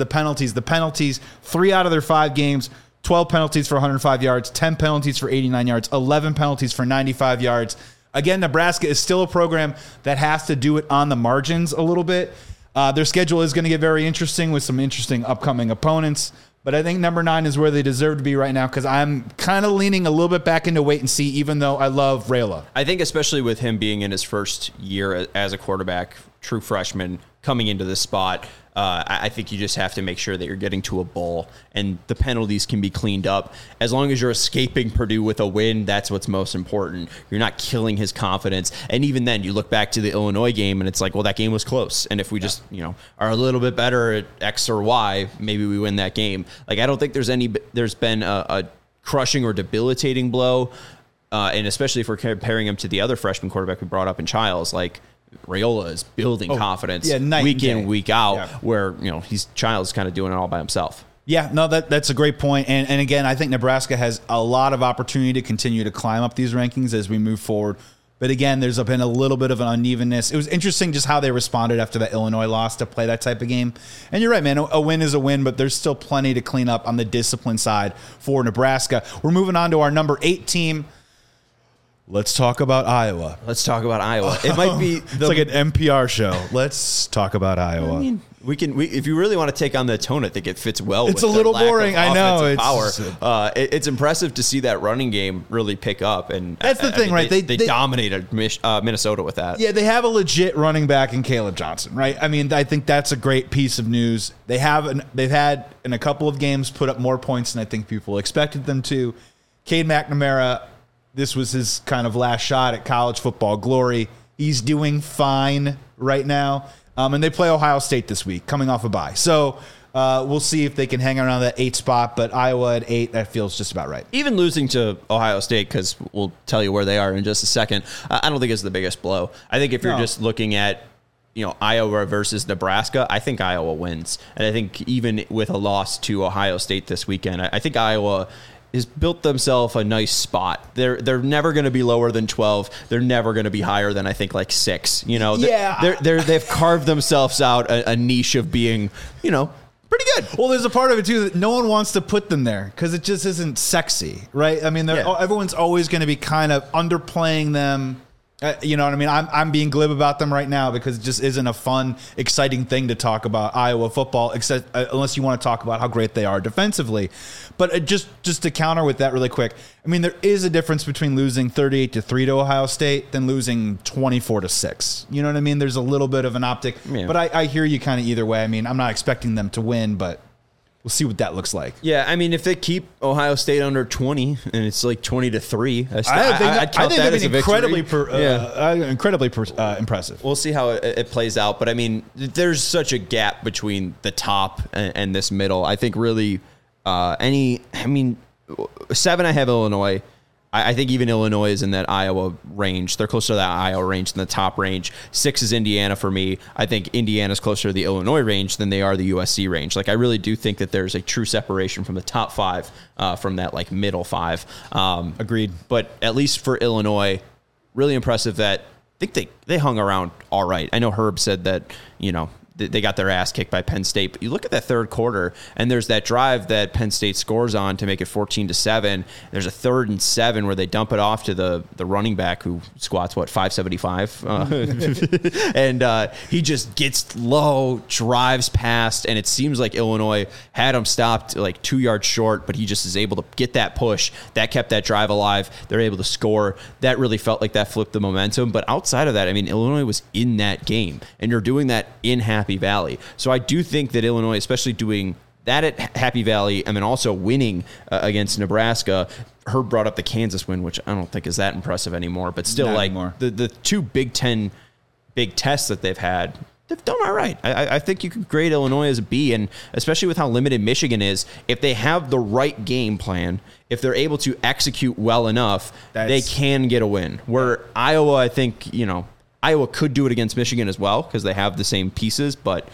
3 out of their 5 games, 12 penalties for 105 yards, 10 penalties for 89 yards, 11 penalties for 95 yards. Again, Nebraska is still a program that has to do it on the margins a little bit. Their schedule is going to get very interesting with some interesting upcoming opponents. But I think number 9 is where they deserve to be right now because I'm kind of leaning a little bit back into wait and see, even though I love Raiola. I think especially with him being in his first year as a quarterback, true freshman, coming into this spot, I think you just have to make sure that you're getting to a bowl and the penalties can be cleaned up. As long as you're escaping Purdue with a win, that's what's most important. You're not killing his confidence. And even then, you look back to the Illinois game and it's like, well, that game was close. And if we just, are a little bit better at X or Y, maybe we win that game. Like, I don't think there's been a crushing or debilitating blow. And especially if we're comparing him to the other freshman quarterback we brought up in Childs, like, Raiola is building confidence week in, week out, where Childs kind of doing it all by himself. Yeah, no, that's a great point. And again, I think Nebraska has a lot of opportunity to continue to climb up these rankings as we move forward. But again, there's been a little bit of an unevenness. It was interesting just how they responded after that Illinois loss to play that type of game. And you're right, man, a win is a win, but there's still plenty to clean up on the discipline side for Nebraska. We're moving on to our number 8 team. Let's talk about Iowa. It might be it's like an NPR show. Let's talk about Iowa. I mean, we if you really want to take on the tone, I think it fits well. It's with a little boring. I know. It's impressive to see that running game really pick up, and that's the thing, right? They dominated Minnesota with that. Yeah, they have a legit running back in Caleb Johnson, right? I mean, I think that's a great piece of news. They've had in a couple of games put up more points than I think people expected them to. Cade McNamara. This was his kind of last shot at college football glory. He's doing fine right now. And they play Ohio State this week, coming off a bye. So we'll see if they can hang around that 8 spot. But Iowa at 8, that feels just about right. Even losing to Ohio State, because we'll tell you where they are in just a second, I don't think it's the biggest blow. I think if you're just looking at Iowa versus Nebraska, I think Iowa wins. And I think even with a loss to Ohio State this weekend, I think Iowa has built themselves a nice spot. They're never going to be lower than 12. They're never going to be higher than I think like 6. They've carved themselves out a niche of being pretty good. Well, there's a part of it too that no one wants to put them there because it just isn't sexy, right? I mean, everyone's always going to be kind of underplaying them. You know what I mean? I'm being glib about them right now because it just isn't a fun, exciting thing to talk about Iowa football, except unless you want to talk about how great they are defensively. But just to counter with that really quick, I mean, there is a difference between losing 38-3 to Ohio State than losing 24-6. You know what I mean? There's a little bit of an optic, but I hear you kind of either way. I mean, I'm not expecting them to win, but we'll see what that looks like. Yeah, I mean, if they keep Ohio State under 20 and it's like 20-3, I'd count that as incredibly impressive. We'll see how it plays out. But I mean, there's such a gap between the top and this middle. I think really 7, I have Illinois. I think even Illinois is in that Iowa range. They're closer to that Iowa range than the top range. 6 is Indiana for me. I think Indiana's closer to the Illinois range than they are the USC range. Like, I really do think that there's a true separation from the top 5 from that like middle 5. Agreed. But at least for Illinois, really impressive that I think they hung around all right. I know Herb said that, they got their ass kicked by Penn State. But you look at that third quarter, and there's that drive that Penn State scores on to make it 14-7. There's a 3rd and 7 where they dump it off to the running back who squats, 575? And he just gets low, drives past, and it seems like Illinois had him stopped like 2 yards short, but he just is able to get that push. That kept that drive alive. They're able to score. That really felt like that flipped the momentum. But outside of that, I mean, Illinois was in that game, and you're doing that in Happy Valley. So I do think that Illinois, especially doing that at Happy Valley and then also winning against Nebraska. Herb brought up the Kansas win, which I don't think is that impressive anymore, but still, Not like anymore. the 2 Big Ten big tests that they've had, they've done all right. I think you could grade Illinois as a B, and especially with how limited Michigan is, if they have the right game plan, if they're able to execute well enough, they can get a win. Where Iowa, I think, Iowa could do it against Michigan as well because they have the same pieces, but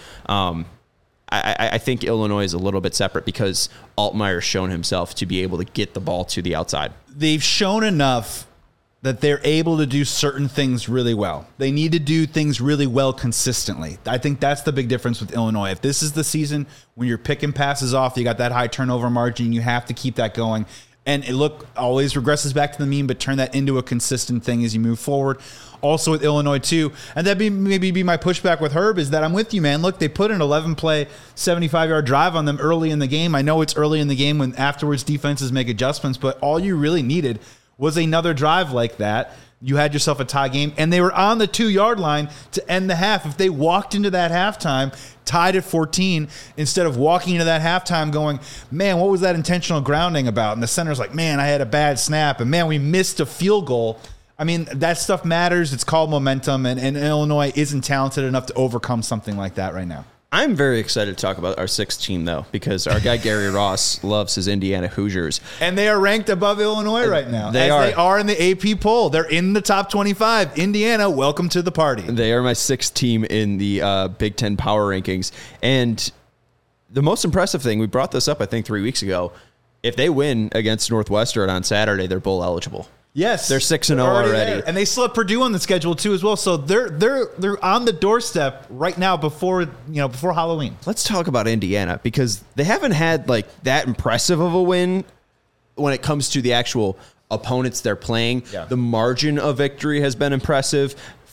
I think Illinois is a little bit separate because Altmaier's shown himself to be able to get the ball to the outside. They've shown enough that they're able to do certain things really well. They need to do things really well consistently. I think that's the big difference with Illinois. If this is the season when you're picking passes off, you got that high turnover margin, you have to keep that going. And it always regresses back to the mean, but turn that into a consistent thing as you move forward. Also with Illinois too, and that'd be my pushback with Herb is that I'm with you, man. Look, they put an 11-play, 75-yard drive on them early in the game. I know it's early in the game when afterwards defenses make adjustments, but all you really needed was another drive like that. You had yourself a tie game, and they were on the 2-yard line to end the half. If they walked into that halftime tied at 14 instead of walking into that halftime going, man, what was that intentional grounding about? And the center's like, man, I had a bad snap, and man, we missed a field goal. I mean, that stuff matters. It's called momentum, and Illinois isn't talented enough to overcome something like that right now. I'm very excited to talk about our 6th team, though, because our guy Gary Ross loves his Indiana Hoosiers. And they are ranked above Illinois right now. They are in the AP poll. They're in the top 25. Indiana, welcome to the party. They are my 6th team in the Big Ten power rankings. And the most impressive thing, we brought this up, I think, 3 weeks ago. If they win against Northwestern on Saturday, they're bowl eligible. Yes, they're 6-0 already, and they still have Purdue on the schedule too as well. So they're on the doorstep right now before Halloween. Let's talk about Indiana because they haven't had like that impressive of a win when it comes to the actual opponents they're playing. Yeah. The margin of victory has been impressive.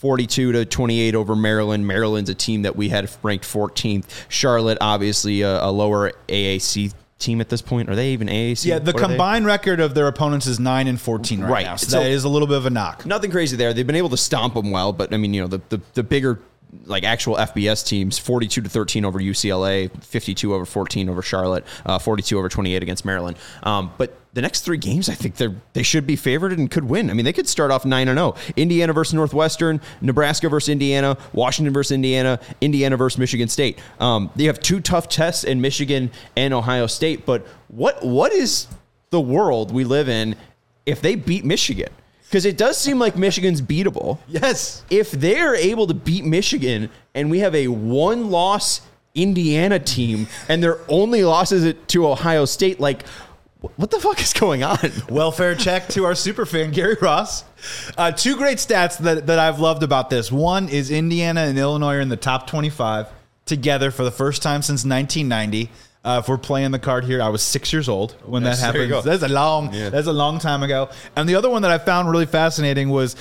42-28 over Maryland. Maryland's a team that we had ranked 14th. Charlotte, obviously a lower AAC team at this point. Are they even AAC? Yeah, the combined record of their opponents is 9-14 right now. So that is a little bit of a knock. Nothing crazy there. They've been able to stomp them well, but I mean, the bigger like actual FBS teams, 42-13 over UCLA, 52-14 over Charlotte, 42-28 against Maryland. But the next 3 games, I think they should be favored and could win. I mean, they could start off 9-0. Indiana versus Northwestern, Nebraska versus Indiana, Washington versus Indiana, Indiana versus Michigan State. They have 2 tough tests in Michigan and Ohio State. But what is the world we live in if they beat Michigan? Because it does seem like Michigan's beatable. Yes. If they're able to beat Michigan and we have a 1-loss Indiana team and their only losses to Ohio State, like, what the fuck is going on? Welfare check to our superfan, Gary Ross. 2 great stats that I've loved about this. One is Indiana and Illinois are in the top 25 together for the first time since 1990. If we're playing the card here, I was 6 years old when that happened. That's a long time ago. And the other one that I found really fascinating was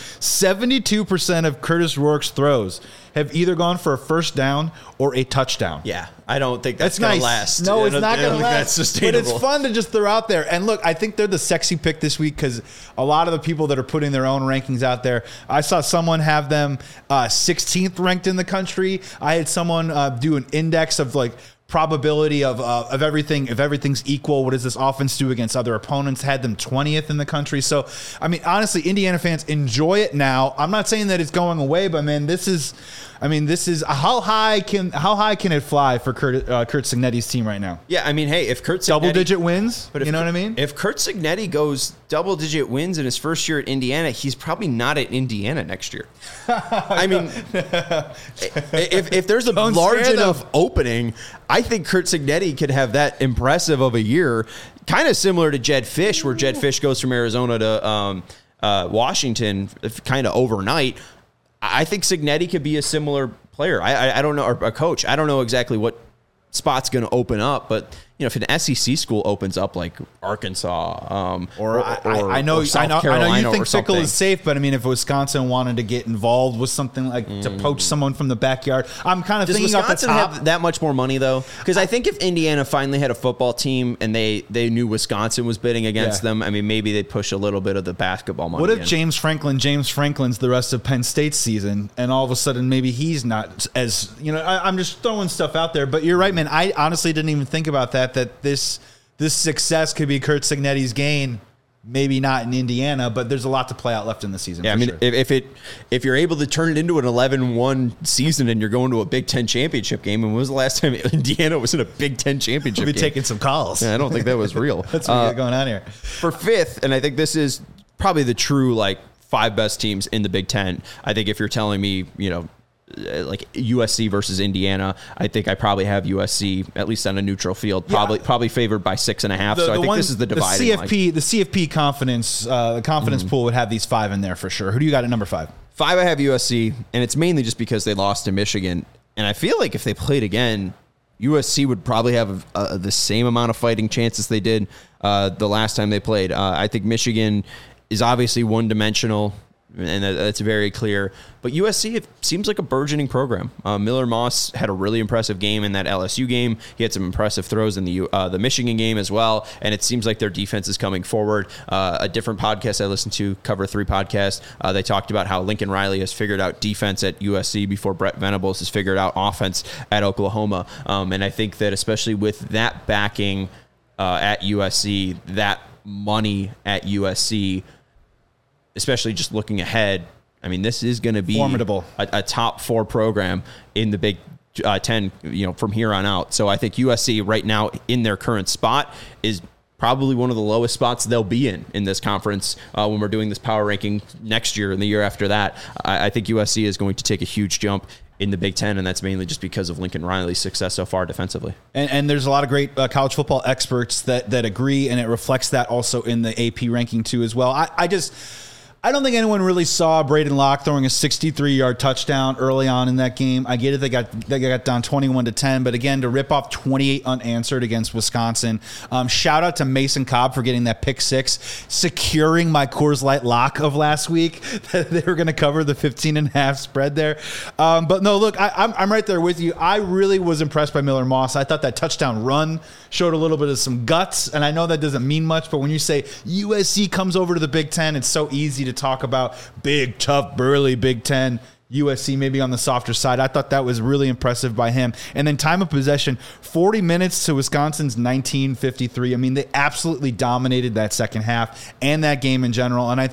72% of Curtis Rourke's throws have either gone for a first down or a touchdown. Yeah, I don't think that's going to last. No, it's not going to last. That's sustainable. But it's fun to just throw out there. And look, I think they're the sexy pick this week because a lot of the people that are putting their own rankings out there, I saw someone have them 16th ranked in the country. I had someone do an index of like probability of everything. If everything's equal, what does this offense do against other opponents? Had them 20th in the country. So, I mean, honestly, Indiana fans, enjoy it now. I'm not saying that it's going away, but man, this is how high can it fly for Curt Cignetti's team right now? Yeah, I mean, hey, if Curt Cignetti, double-digit wins, but you know what I mean? If Curt Cignetti goes double-digit wins in his first year at Indiana, he's probably not at Indiana next year. I mean, if there's a large enough opening, I think Curt Cignetti could have that impressive of a year, kind of similar to Jedd Fisch, where Jedd Fisch goes from Arizona to Washington kind of overnight. I think Cignetti could be a similar player. I don't know, or a coach. I don't know exactly what spot's going to open up, but if an SEC school opens up like Arkansas, I know you think Fickell is safe, but I mean, if Wisconsin wanted to get involved with something like to poach someone from the backyard, I'm kind of thinking off the top. Have that much more money though? Because I think if Indiana finally had a football team and they knew Wisconsin was bidding against them, I mean, maybe they'd push a little bit of the basketball money. What if James Franklin's the rest of Penn State's season, and all of a sudden maybe he's not as I'm just throwing stuff out there, but you're right, man. I honestly didn't even think about that this success could be Curt Cignetti's gain Maybe not in Indiana, but there's a lot to play out left in the season. Yeah, I mean, sure. if you're able to turn it into an 11-1 season and you're going to a Big Ten championship game, and when was the last time Indiana was in a Big Ten championship we'll be game? taking some calls. Yeah, I don't think that was real. That's what we got going on here. For fifth, and I think this is probably the true like 5 best teams in the Big Ten. I think if you're telling me, like USC versus Indiana, I think I probably have USC at least on a neutral field, probably favored by 6.5. So I think this is the dividing line. The CFP confidence, the confidence pool would have these 5 in there for sure. Who do you got at number 5? 5, I have USC, and it's mainly just because they lost to Michigan. And I feel like if they played again, USC would probably have the same amount of fighting chances they did the last time they played. I think Michigan is obviously one-dimensional, and that's very clear. But USC, it seems like a burgeoning program. Miller Moss had a really impressive game in that LSU game. He had some impressive throws in the Michigan game as well. And it seems like their defense is coming forward. A different podcast I listened to, Cover 3 podcast, they talked about how Lincoln Riley has figured out defense at USC before Brett Venables has figured out offense at Oklahoma. And I think that especially with that backing at USC, that money at USC, especially just looking ahead, I mean, this is going to be formidable, a top 4 program in the Big Ten, from here on out. So I think USC right now in their current spot is probably one of the lowest spots they'll be in this conference when we're doing this power ranking next year and the year after that. I think USC is going to take a huge jump in the Big Ten, and that's mainly just because of Lincoln Riley's success so far defensively. And there's a lot of great college football experts that agree, and it reflects that also in the AP ranking too as well. I don't think anyone really saw Braden Locke throwing a 63-yard touchdown early on in that game. I get it; they got down 21-10, but again, to rip off 28 unanswered against Wisconsin. Shout out to Mason Cobb for getting that pick 6, securing my Coors Light lock of last week. They were going to cover the 15.5 spread there. But no, look, I'm right there with you. I really was impressed by Miller Moss. I thought that touchdown run showed a little bit of some guts, and I know that doesn't mean much, but when you say USC comes over to the Big Ten, it's so easy to talk about big, tough, burly Big Ten. USC maybe on the softer side. I thought that was really impressive by him. And then time of possession, 40 minutes to Wisconsin's 19:53. I mean, they absolutely dominated that second half and that game in general. And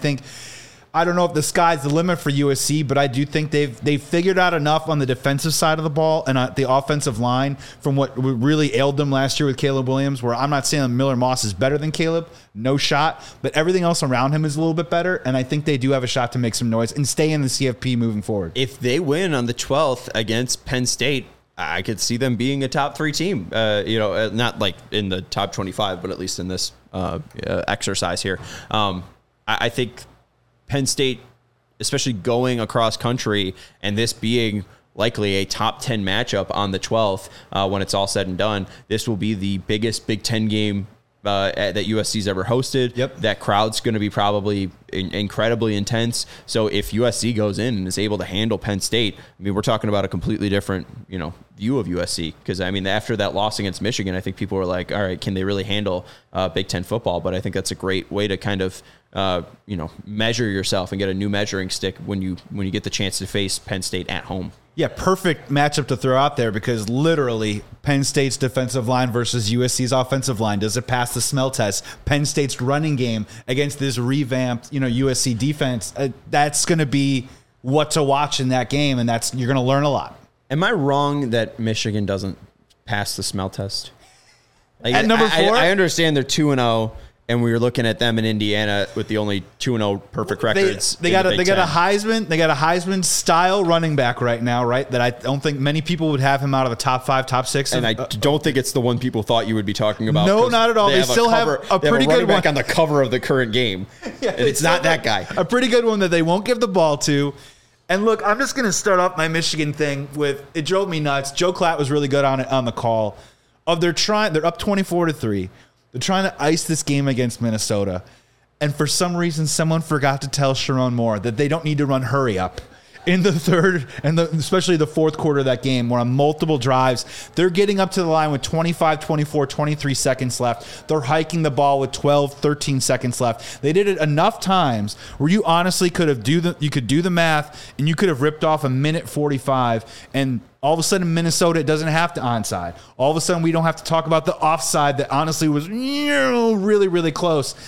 I don't know if the sky's the limit for USC, but I do think they've figured out enough on the defensive side of the ball and the offensive line from what really ailed them last year with Caleb Williams, where I'm not saying Miller Moss is better than Caleb, no shot, but everything else around him is a little bit better, and I think they do have a shot to make some noise and stay in the CFP moving forward. If they win on the 12th against Penn State, I could see them being a top 3 team, not like in the top 25, but at least in this exercise here. I think Penn State, especially going across country, and this being likely a top 10 matchup on the 12th when it's all said and done, this will be the biggest Big Ten game that USC's ever hosted. Yep. That crowd's going to be probably incredibly intense. So if USC goes in and is able to handle Penn State, I mean, we're talking about a completely different, view of USC. Because, I mean, after that loss against Michigan, I think people were like, all right, can they really handle Big Ten football? But I think that's a great way to kind of measure yourself and get a new measuring stick when you get the chance to face Penn State at home. Yeah, perfect matchup to throw out there because literally Penn State's defensive line versus USC's offensive line. Does it pass the smell test? Penn State's running game against this revamped, USC defense. That's going to be what to watch in that game, and you're going to learn a lot. Am I wrong that Michigan doesn't pass the smell test? At number 4? I understand they're 2-0. And we were looking at them in Indiana with the only 2-0 perfect records. They got a Heisman style running back right now, right? That I don't think many people would have him out of the top 5, top 6. And I don't think it's the one people thought you would be talking about. No, not at all. They still have a pretty good one on the cover of the current game. Yeah, and it's not that guy. A pretty good one that they won't give the ball to. And look, I'm just going to start off my Michigan thing with, it drove me nuts. Joe Klatt was really good on the call. They're up 24-3. They're trying to ice this game against Minnesota. And for some reason, someone forgot to tell Sharon Moore that they don't need to run hurry up in the third and especially the fourth quarter of that game, where on multiple drives, they're getting up to the line with 25, 24, 23 seconds left. They're hiking the ball with 12, 13 seconds left. They did it enough times where you honestly could do the math and you could have ripped off a minute 45, and all of a sudden Minnesota doesn't have to onside. All of a sudden we don't have to talk about the offside that honestly was really, really close.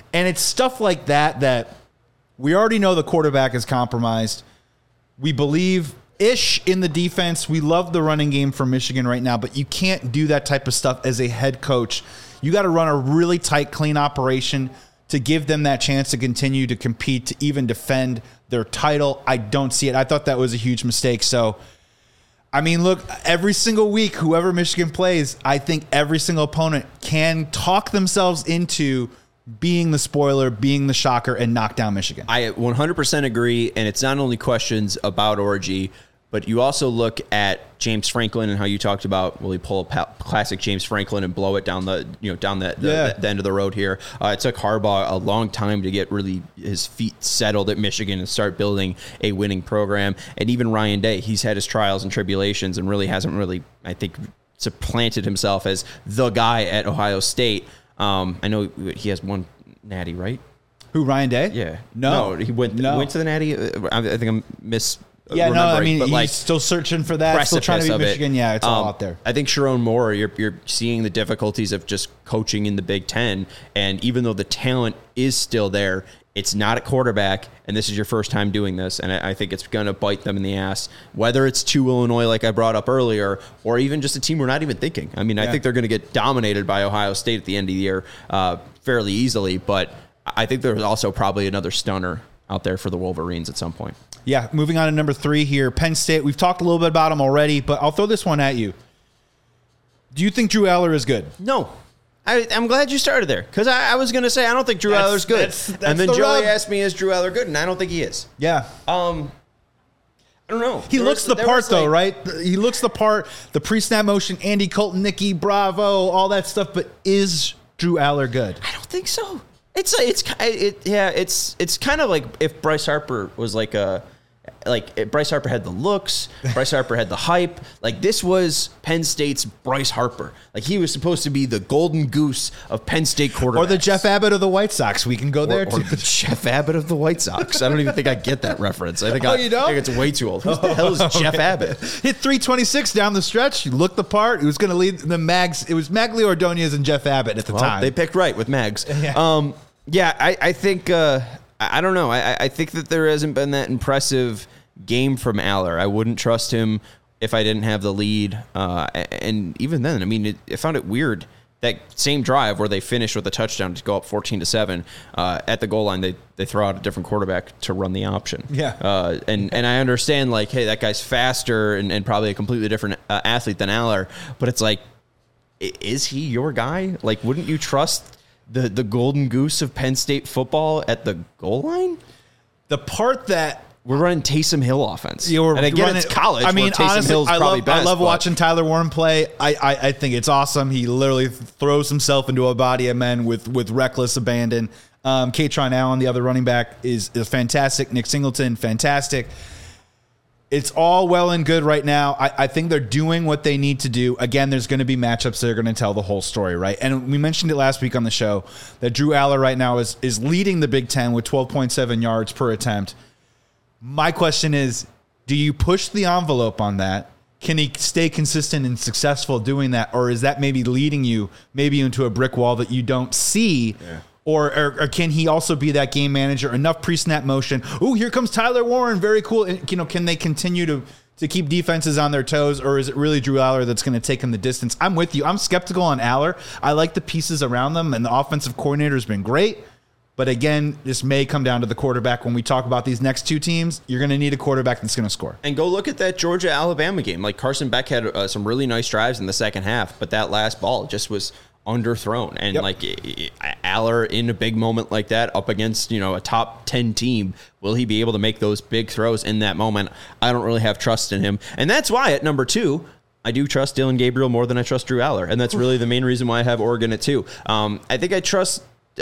And it's stuff like that we already know the quarterback is compromised. We believe-ish in the defense. We love the running game for Michigan right now, but you can't do that type of stuff as a head coach. You got to run a really tight, clean operation to give them that chance to continue to compete, to even defend their title. I don't see it. I thought that was a huge mistake. So, I mean, look, every single week, whoever Michigan plays, I think every single opponent can talk themselves into being the spoiler, being the shocker, and knock down Michigan. I 100% agree, and it's not only questions about Orji, but you also look at James Franklin and how you talked about, will he pull a classic James Franklin and blow it down the end of the road here? It took Harbaugh a long time to get really his feet settled at Michigan and start building a winning program. And even Ryan Day, he's had his trials and tribulations and really hasn't really, I think, supplanted himself as the guy at Ohio State. I know he has one natty, right? Who, Ryan Day? Yeah. No. He went to the natty. I think I'm Yeah, no, I mean, but he's still searching for that, still trying to beat Michigan. Yeah, it's all out there. I think Sharon Moore, you're seeing the difficulties of just coaching in the Big Ten, and even though the talent is still there, it's not at quarterback, and this is your first time doing this, and I think it's going to bite them in the ass, whether it's to Illinois, like I brought up earlier, or even just a team we're not even thinking. I mean, I think they're going to get dominated by Ohio State at the end of the year fairly easily, but I think there's also probably another stunner out there for the Wolverines at some point. Yeah, moving on to number 3 here, Penn State. We've talked a little bit about them already, but I'll throw this one at you. Do you think Drew Aller is good? No. I'm glad you started there, because I was going to say I don't think Drew Aller's good. And then Joey asked me, is Drew Aller good? And I don't think he is. Yeah. I don't know. He looks the part, though, right? He looks the part, the pre-snap motion, Andy Colton, Nicky, Bravo, all that stuff, but is Drew Aller good? I don't think so. It's kind of like if Bryce Harper was Bryce Harper had the looks, Bryce Harper had the hype. Like, this was Penn State's Bryce Harper. Like, he was supposed to be the golden goose of Penn State quarterbacks. Or the Jeff Abbott of the White Sox. We can go there, too. Or the Jeff Abbott of the White Sox. I don't even think I get that reference. I think you don't? I think it's way too old. Who the hell is Jeff Abbott? Hit 326 down the stretch. He looked the part. He was going to lead the Mags. It was Magli Ordonez and Jeff Abbott at the time. They picked right with Mags. Yeah. I think, I don't know. I think that there hasn't been that impressive game from Aller. I wouldn't trust him if I didn't have the lead. And even then, I mean, I found it weird that same drive where they finished with a touchdown to go up 14-7 at the goal line, they throw out a different quarterback to run the option. Yeah. And I understand, like, hey, that guy's faster and probably a completely different athlete than Aller, but it's like, is he your guy? Like, wouldn't you trust the golden goose of Penn State football at the goal line? The part that we're running Taysom Hill offense. Yeah, and again, it's college. I mean, Taysom honestly, Hill's probably best, I love watching Tyler Warren play. I think it's awesome. He literally throws himself into a body of men with reckless abandon. Katron Allen, the other running back, is fantastic. Nick Singleton, fantastic. It's all well and good right now. I think they're doing what they need to do. Again, there's going to be matchups that are going to tell the whole story, right? And we mentioned it last week on the show that Drew Aller right now is leading the Big Ten with 12.7 yards per attempt. My question is, do you push the envelope on that? Can he stay consistent and successful doing that? Or is that maybe leading you maybe into a brick wall that you don't see? Yeah. Or can he also be that game manager? Enough pre-snap motion. Ooh, here comes Tyler Warren. Very cool. And, can they continue to keep defenses on their toes? Or is it really Drew Aller that's going to take him the distance? I'm with you. I'm skeptical on Aller. I like the pieces around them, and the offensive coordinator has been great. But again, this may come down to the quarterback. When we talk about these next two teams, you're going to need a quarterback that's going to score. And go look at that Georgia-Alabama game. Like, Carson Beck had some really nice drives in the second half, but that last ball just was underthrown. And like Aller in a big moment like that up against, a top 10 team, will he be able to make those big throws in that moment? I don't really have trust in him. And that's why at number 2, I do trust Dillon Gabriel more than I trust Drew Aller. And that's really the main reason why I have Oregon at 2. I think I trust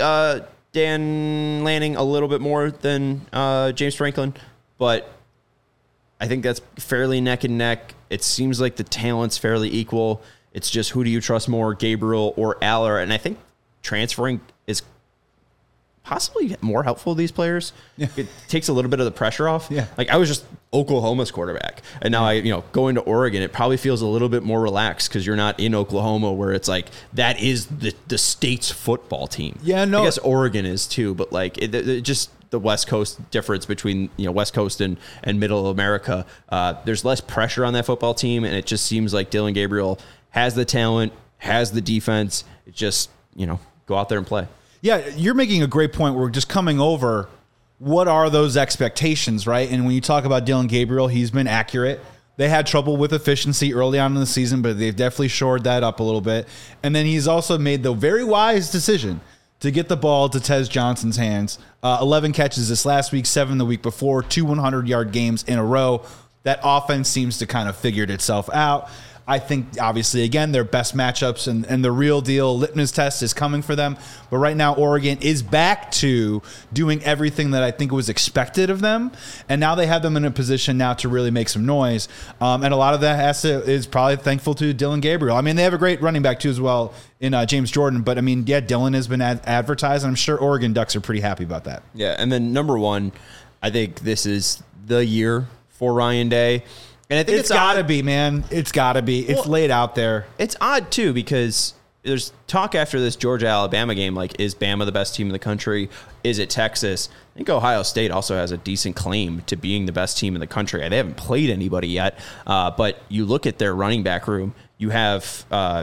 Dan Lanning a little bit more than James Franklin, but I think that's fairly neck and neck. It seems like the talent's fairly equal. It's just, who do you trust more, Gabriel or Aller? And I think transferring is possibly more helpful to these players. Yeah. It takes a little bit of the pressure off. Yeah. Like I was just Oklahoma's quarterback, and now going to Oregon, it probably feels a little bit more relaxed because you're not in Oklahoma where it's like that is the state's football team. Yeah, no, I guess Oregon is too, but like it just the West Coast difference between West Coast and Middle America. There's less pressure on that football team, and it just seems like Dillon Gabriel has the talent, has the defense. It just go out there and play. Yeah, you're making a great point. We're just coming over what are those expectations, right? And when you talk about Dillon Gabriel, he's been accurate. They had trouble with efficiency early on in the season, but they've definitely shored that up a little bit. And then he's also made the very wise decision to get the ball to Tez Johnson's hands. 11 catches this last week, 7 the week before, 2 100-yard games in a row. That offense seems to kind of figured itself out. I think, obviously, again, their best matchups and the real deal litmus test is coming for them. But right now, Oregon is back to doing everything that I think was expected of them. And now they have them in a position now to really make some noise. And a lot of that is probably thankful to Dillon Gabriel. I mean, they have a great running back, too, as well, in James Jordan. But, I mean, yeah, Dillon has been advertised, and I'm sure Oregon Ducks are pretty happy about that. Yeah, and then number one, I think this is the year for Ryan Day. And I think it's got to be, man. It's got to be. It's laid out there. It's odd, too, because there's talk after this Georgia-Alabama game, like, is Bama the best team in the country? Is it Texas? I think Ohio State also has a decent claim to being the best team in the country. They haven't played anybody yet, but you look at their running back room, you have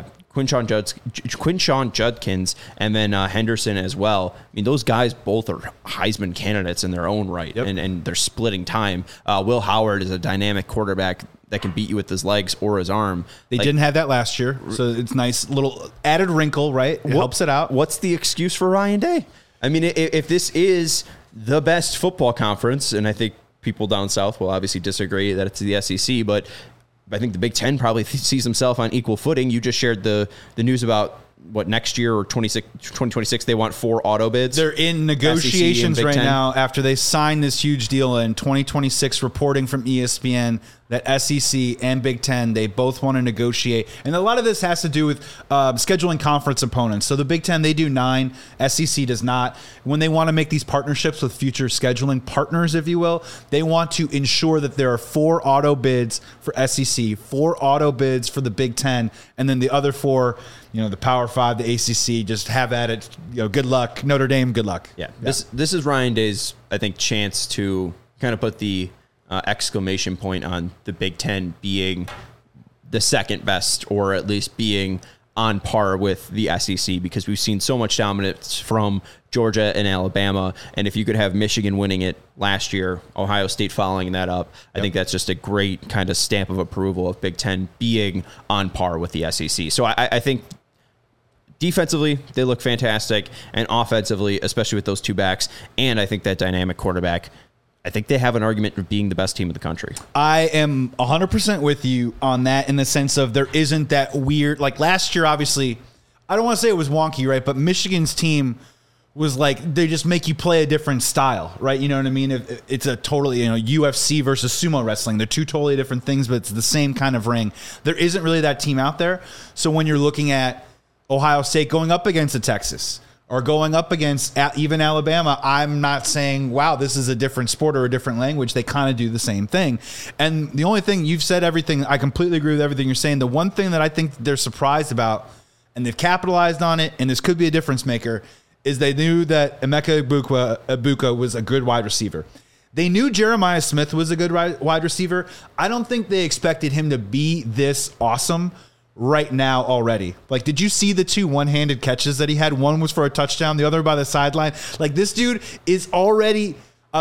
Quinshon Judkins and then Henderson as well. I mean, those guys both are Heisman candidates in their own right, and they're splitting time. Will Howard is a dynamic quarterback that can beat you with his legs or his arm. They didn't have that last year, so it's nice little added wrinkle, right? It helps it out. What's the excuse for Ryan Day? I mean, if this is the best football conference, and I think people down south will obviously disagree that it's the SEC, but I think the Big Ten probably sees himself on equal footing. You just shared the news about what next year or 2026 they want 4 auto bids. They're in negotiations right now after they signed this huge deal in 2026. Reporting from ESPN that SEC and Big Ten, they both want to negotiate. And a lot of this has to do with scheduling conference opponents. So the Big Ten, they do 9. SEC does not. When they want to make these partnerships with future scheduling partners, if you will, they want to ensure that there are 4 auto bids for SEC, 4 auto bids for the Big Ten, and then the other 4, the Power 5, the ACC, just have at it. Good luck. Notre Dame, good luck. Yeah. This is Ryan Day's, I think, chance to kind of put the exclamation point on the Big Ten being the second best, or at least being on par with the SEC, because we've seen so much dominance from Georgia and Alabama. And if you could have Michigan winning it last year, Ohio State following that up, I think that's just a great kind of stamp of approval of Big Ten being on par with the SEC. So I think defensively, they look fantastic, and offensively, especially with those 2 backs, and I think that dynamic quarterback, I think they have an argument for being the best team in the country. I am 100% with you on that, in the sense of there isn't that weird, like last year, obviously, I don't want to say it was wonky, right? But Michigan's team was like, they just make you play a different style, right? You know what I mean? It's a totally, UFC versus sumo wrestling. They're 2 totally different things, but it's the same kind of ring. There isn't really that team out there. So when you're looking at Ohio State going up against a Texas, or going up against even Alabama, I'm not saying, wow, this is a different sport or a different language. They kind of do the same thing. And the only thing, you've said everything, I completely agree with everything you're saying. The one thing that I think they're surprised about, and they've capitalized on it, and this could be a difference maker, is they knew that Emeka Egbuka was a good wide receiver. They knew Jeremiah Smith was a good wide receiver. I don't think they expected him to be this awesome right now already. Like, did you see the 2 one-handed catches that he had? One was for a touchdown, the other by the sideline. Like, this dude is already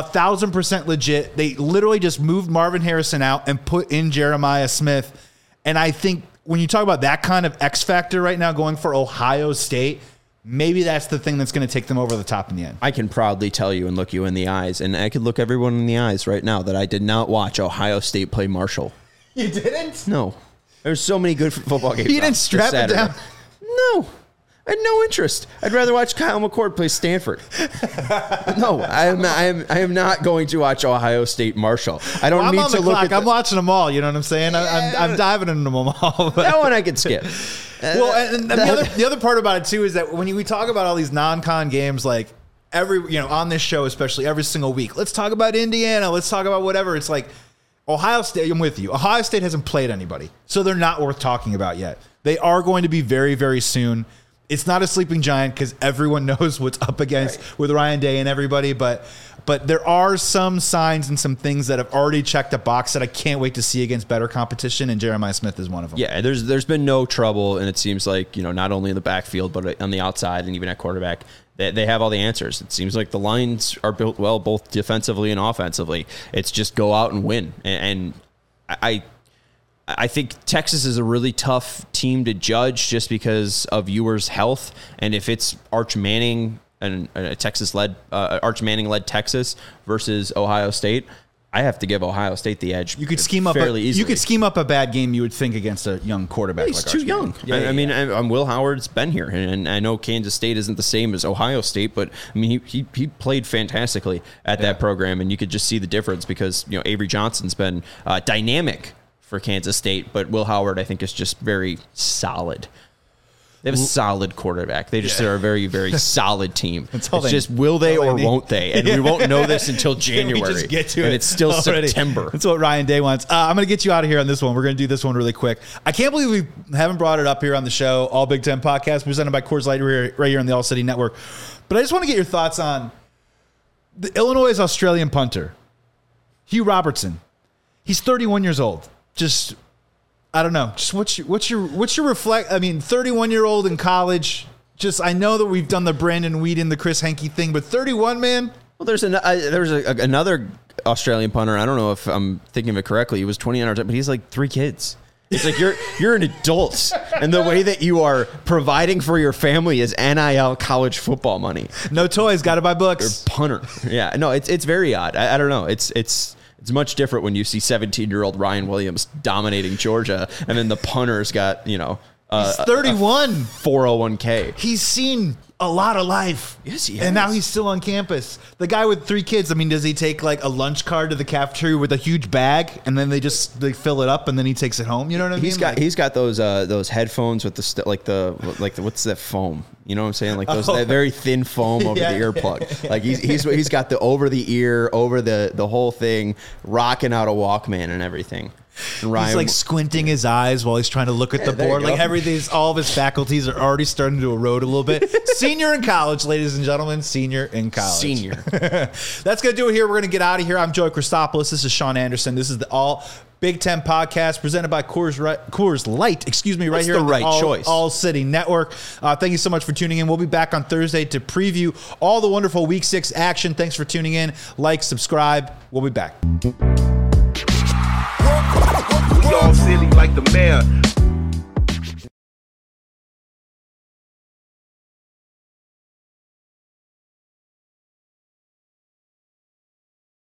1,000% legit. They literally just moved Marvin Harrison out and put in Jeremiah Smith. And I think when you talk about that kind of X factor right now going for Ohio State, maybe that's the thing that's going to take them over the top in the end. I can proudly tell you and look you in the eyes, and I could look everyone in the eyes right now, that I did not watch Ohio State play Marshall. You didn't? No. There's so many good football games. You didn't strap it down? No. I had no interest. I'd rather watch Kyle McCord play Stanford. No, I am not going to watch Ohio State Marshall. I don't need to look at I'm watching them all, you know what I'm saying? I'm diving into them all. That one I could skip. Well, and the other part about it too is that when we talk about all these non-con games, like on this show, especially every single week, let's talk about Indiana. Let's talk about whatever. It's like Ohio State. I'm with you. Ohio State hasn't played anybody, so they're not worth talking about yet. They are going to be very, very soon. It's not a sleeping giant because everyone knows what's up against with Ryan Day and everybody, but there are some signs and some things that have already checked a box that I can't wait to see against better competition, and Jeremiah Smith is one of them. Yeah, there's been no trouble, and it seems like, not only in the backfield, but on the outside and even at quarterback, they have all the answers. It seems like the lines are built well, both defensively and offensively. It's just go out and win. And I think Texas is a really tough team to judge just because of Ewers' health, and if it's Arch Manning and Arch Manning-led Texas versus Ohio State, I have to give Ohio State the edge. You could scheme up fairly easily. You could scheme up a bad game, you would think, against a young quarterback. He's like too Arch young. Manning. I mean, Will Howard's been here, and I know Kansas State isn't the same as Ohio State, but I mean, he played fantastically at that program, and you could just see the difference because Avery Johnson's been dynamic for Kansas State, but Will Howard, I think, is just very solid. They have a solid quarterback. They just are a very, very solid team. It's just will they or won't they? And we won't know this until January. We just get to and it it's still already. September. That's what Ryan Day wants. I'm going to get you out of here on this one. We're going to do this one really quick. I can't believe we haven't brought it up here on the show. All Big Ten podcast presented by Coors Light right here on the All City Network. But I just want to get your thoughts on the Illinois' Australian punter, Hugh Robertson. He's 31 years old. Just, I don't know. Just what's your reflect? I mean, 31-year-old in college. Just, I know that we've done the Brandon Weeden, the Chris Henke thing, but 31, man. Well, there's another Australian punter. I don't know if I'm thinking of it correctly. He was 29, but he's like 3 kids. It's like you're an adult, and the way that you are providing for your family is NIL college football money. No toys, got to buy books. You're a punter. Yeah, no, it's very odd. I don't know. It's much different when you see 17-year-old Ryan Williams dominating Georgia, and then the punter's got, he's 31. 401k. He's seen a lot of life. Yes, he has. And now he's still on campus. The guy with 3 kids, I mean, does he take like a lunch card to the cafeteria with a huge bag, and then they fill it up, and then he takes it home? You know what I mean? He's got those headphones with the what's that foam? You know what I'm saying? Like that very thin foam over the earplug. Like he's got the over the ear, over the whole thing, rocking out a Walkman and everything. And Ryan, he's like squinting his eyes while he's trying to look at the board. Like all of his faculties are already starting to erode a little bit. Senior in college, ladies and gentlemen. Senior in college. Senior. That's going to do it here. We're going to get out of here. I'm Joey Christopoulos. This is Sean Anderson. This is the All Big Ten podcast presented by Coors Light. Excuse me, right here on the All City Network. Thank you so much for tuning in. We'll be back on Thursday to preview all the wonderful Week 6 action. Thanks for tuning in. Like, subscribe. We'll be back. We all silly like the mayor.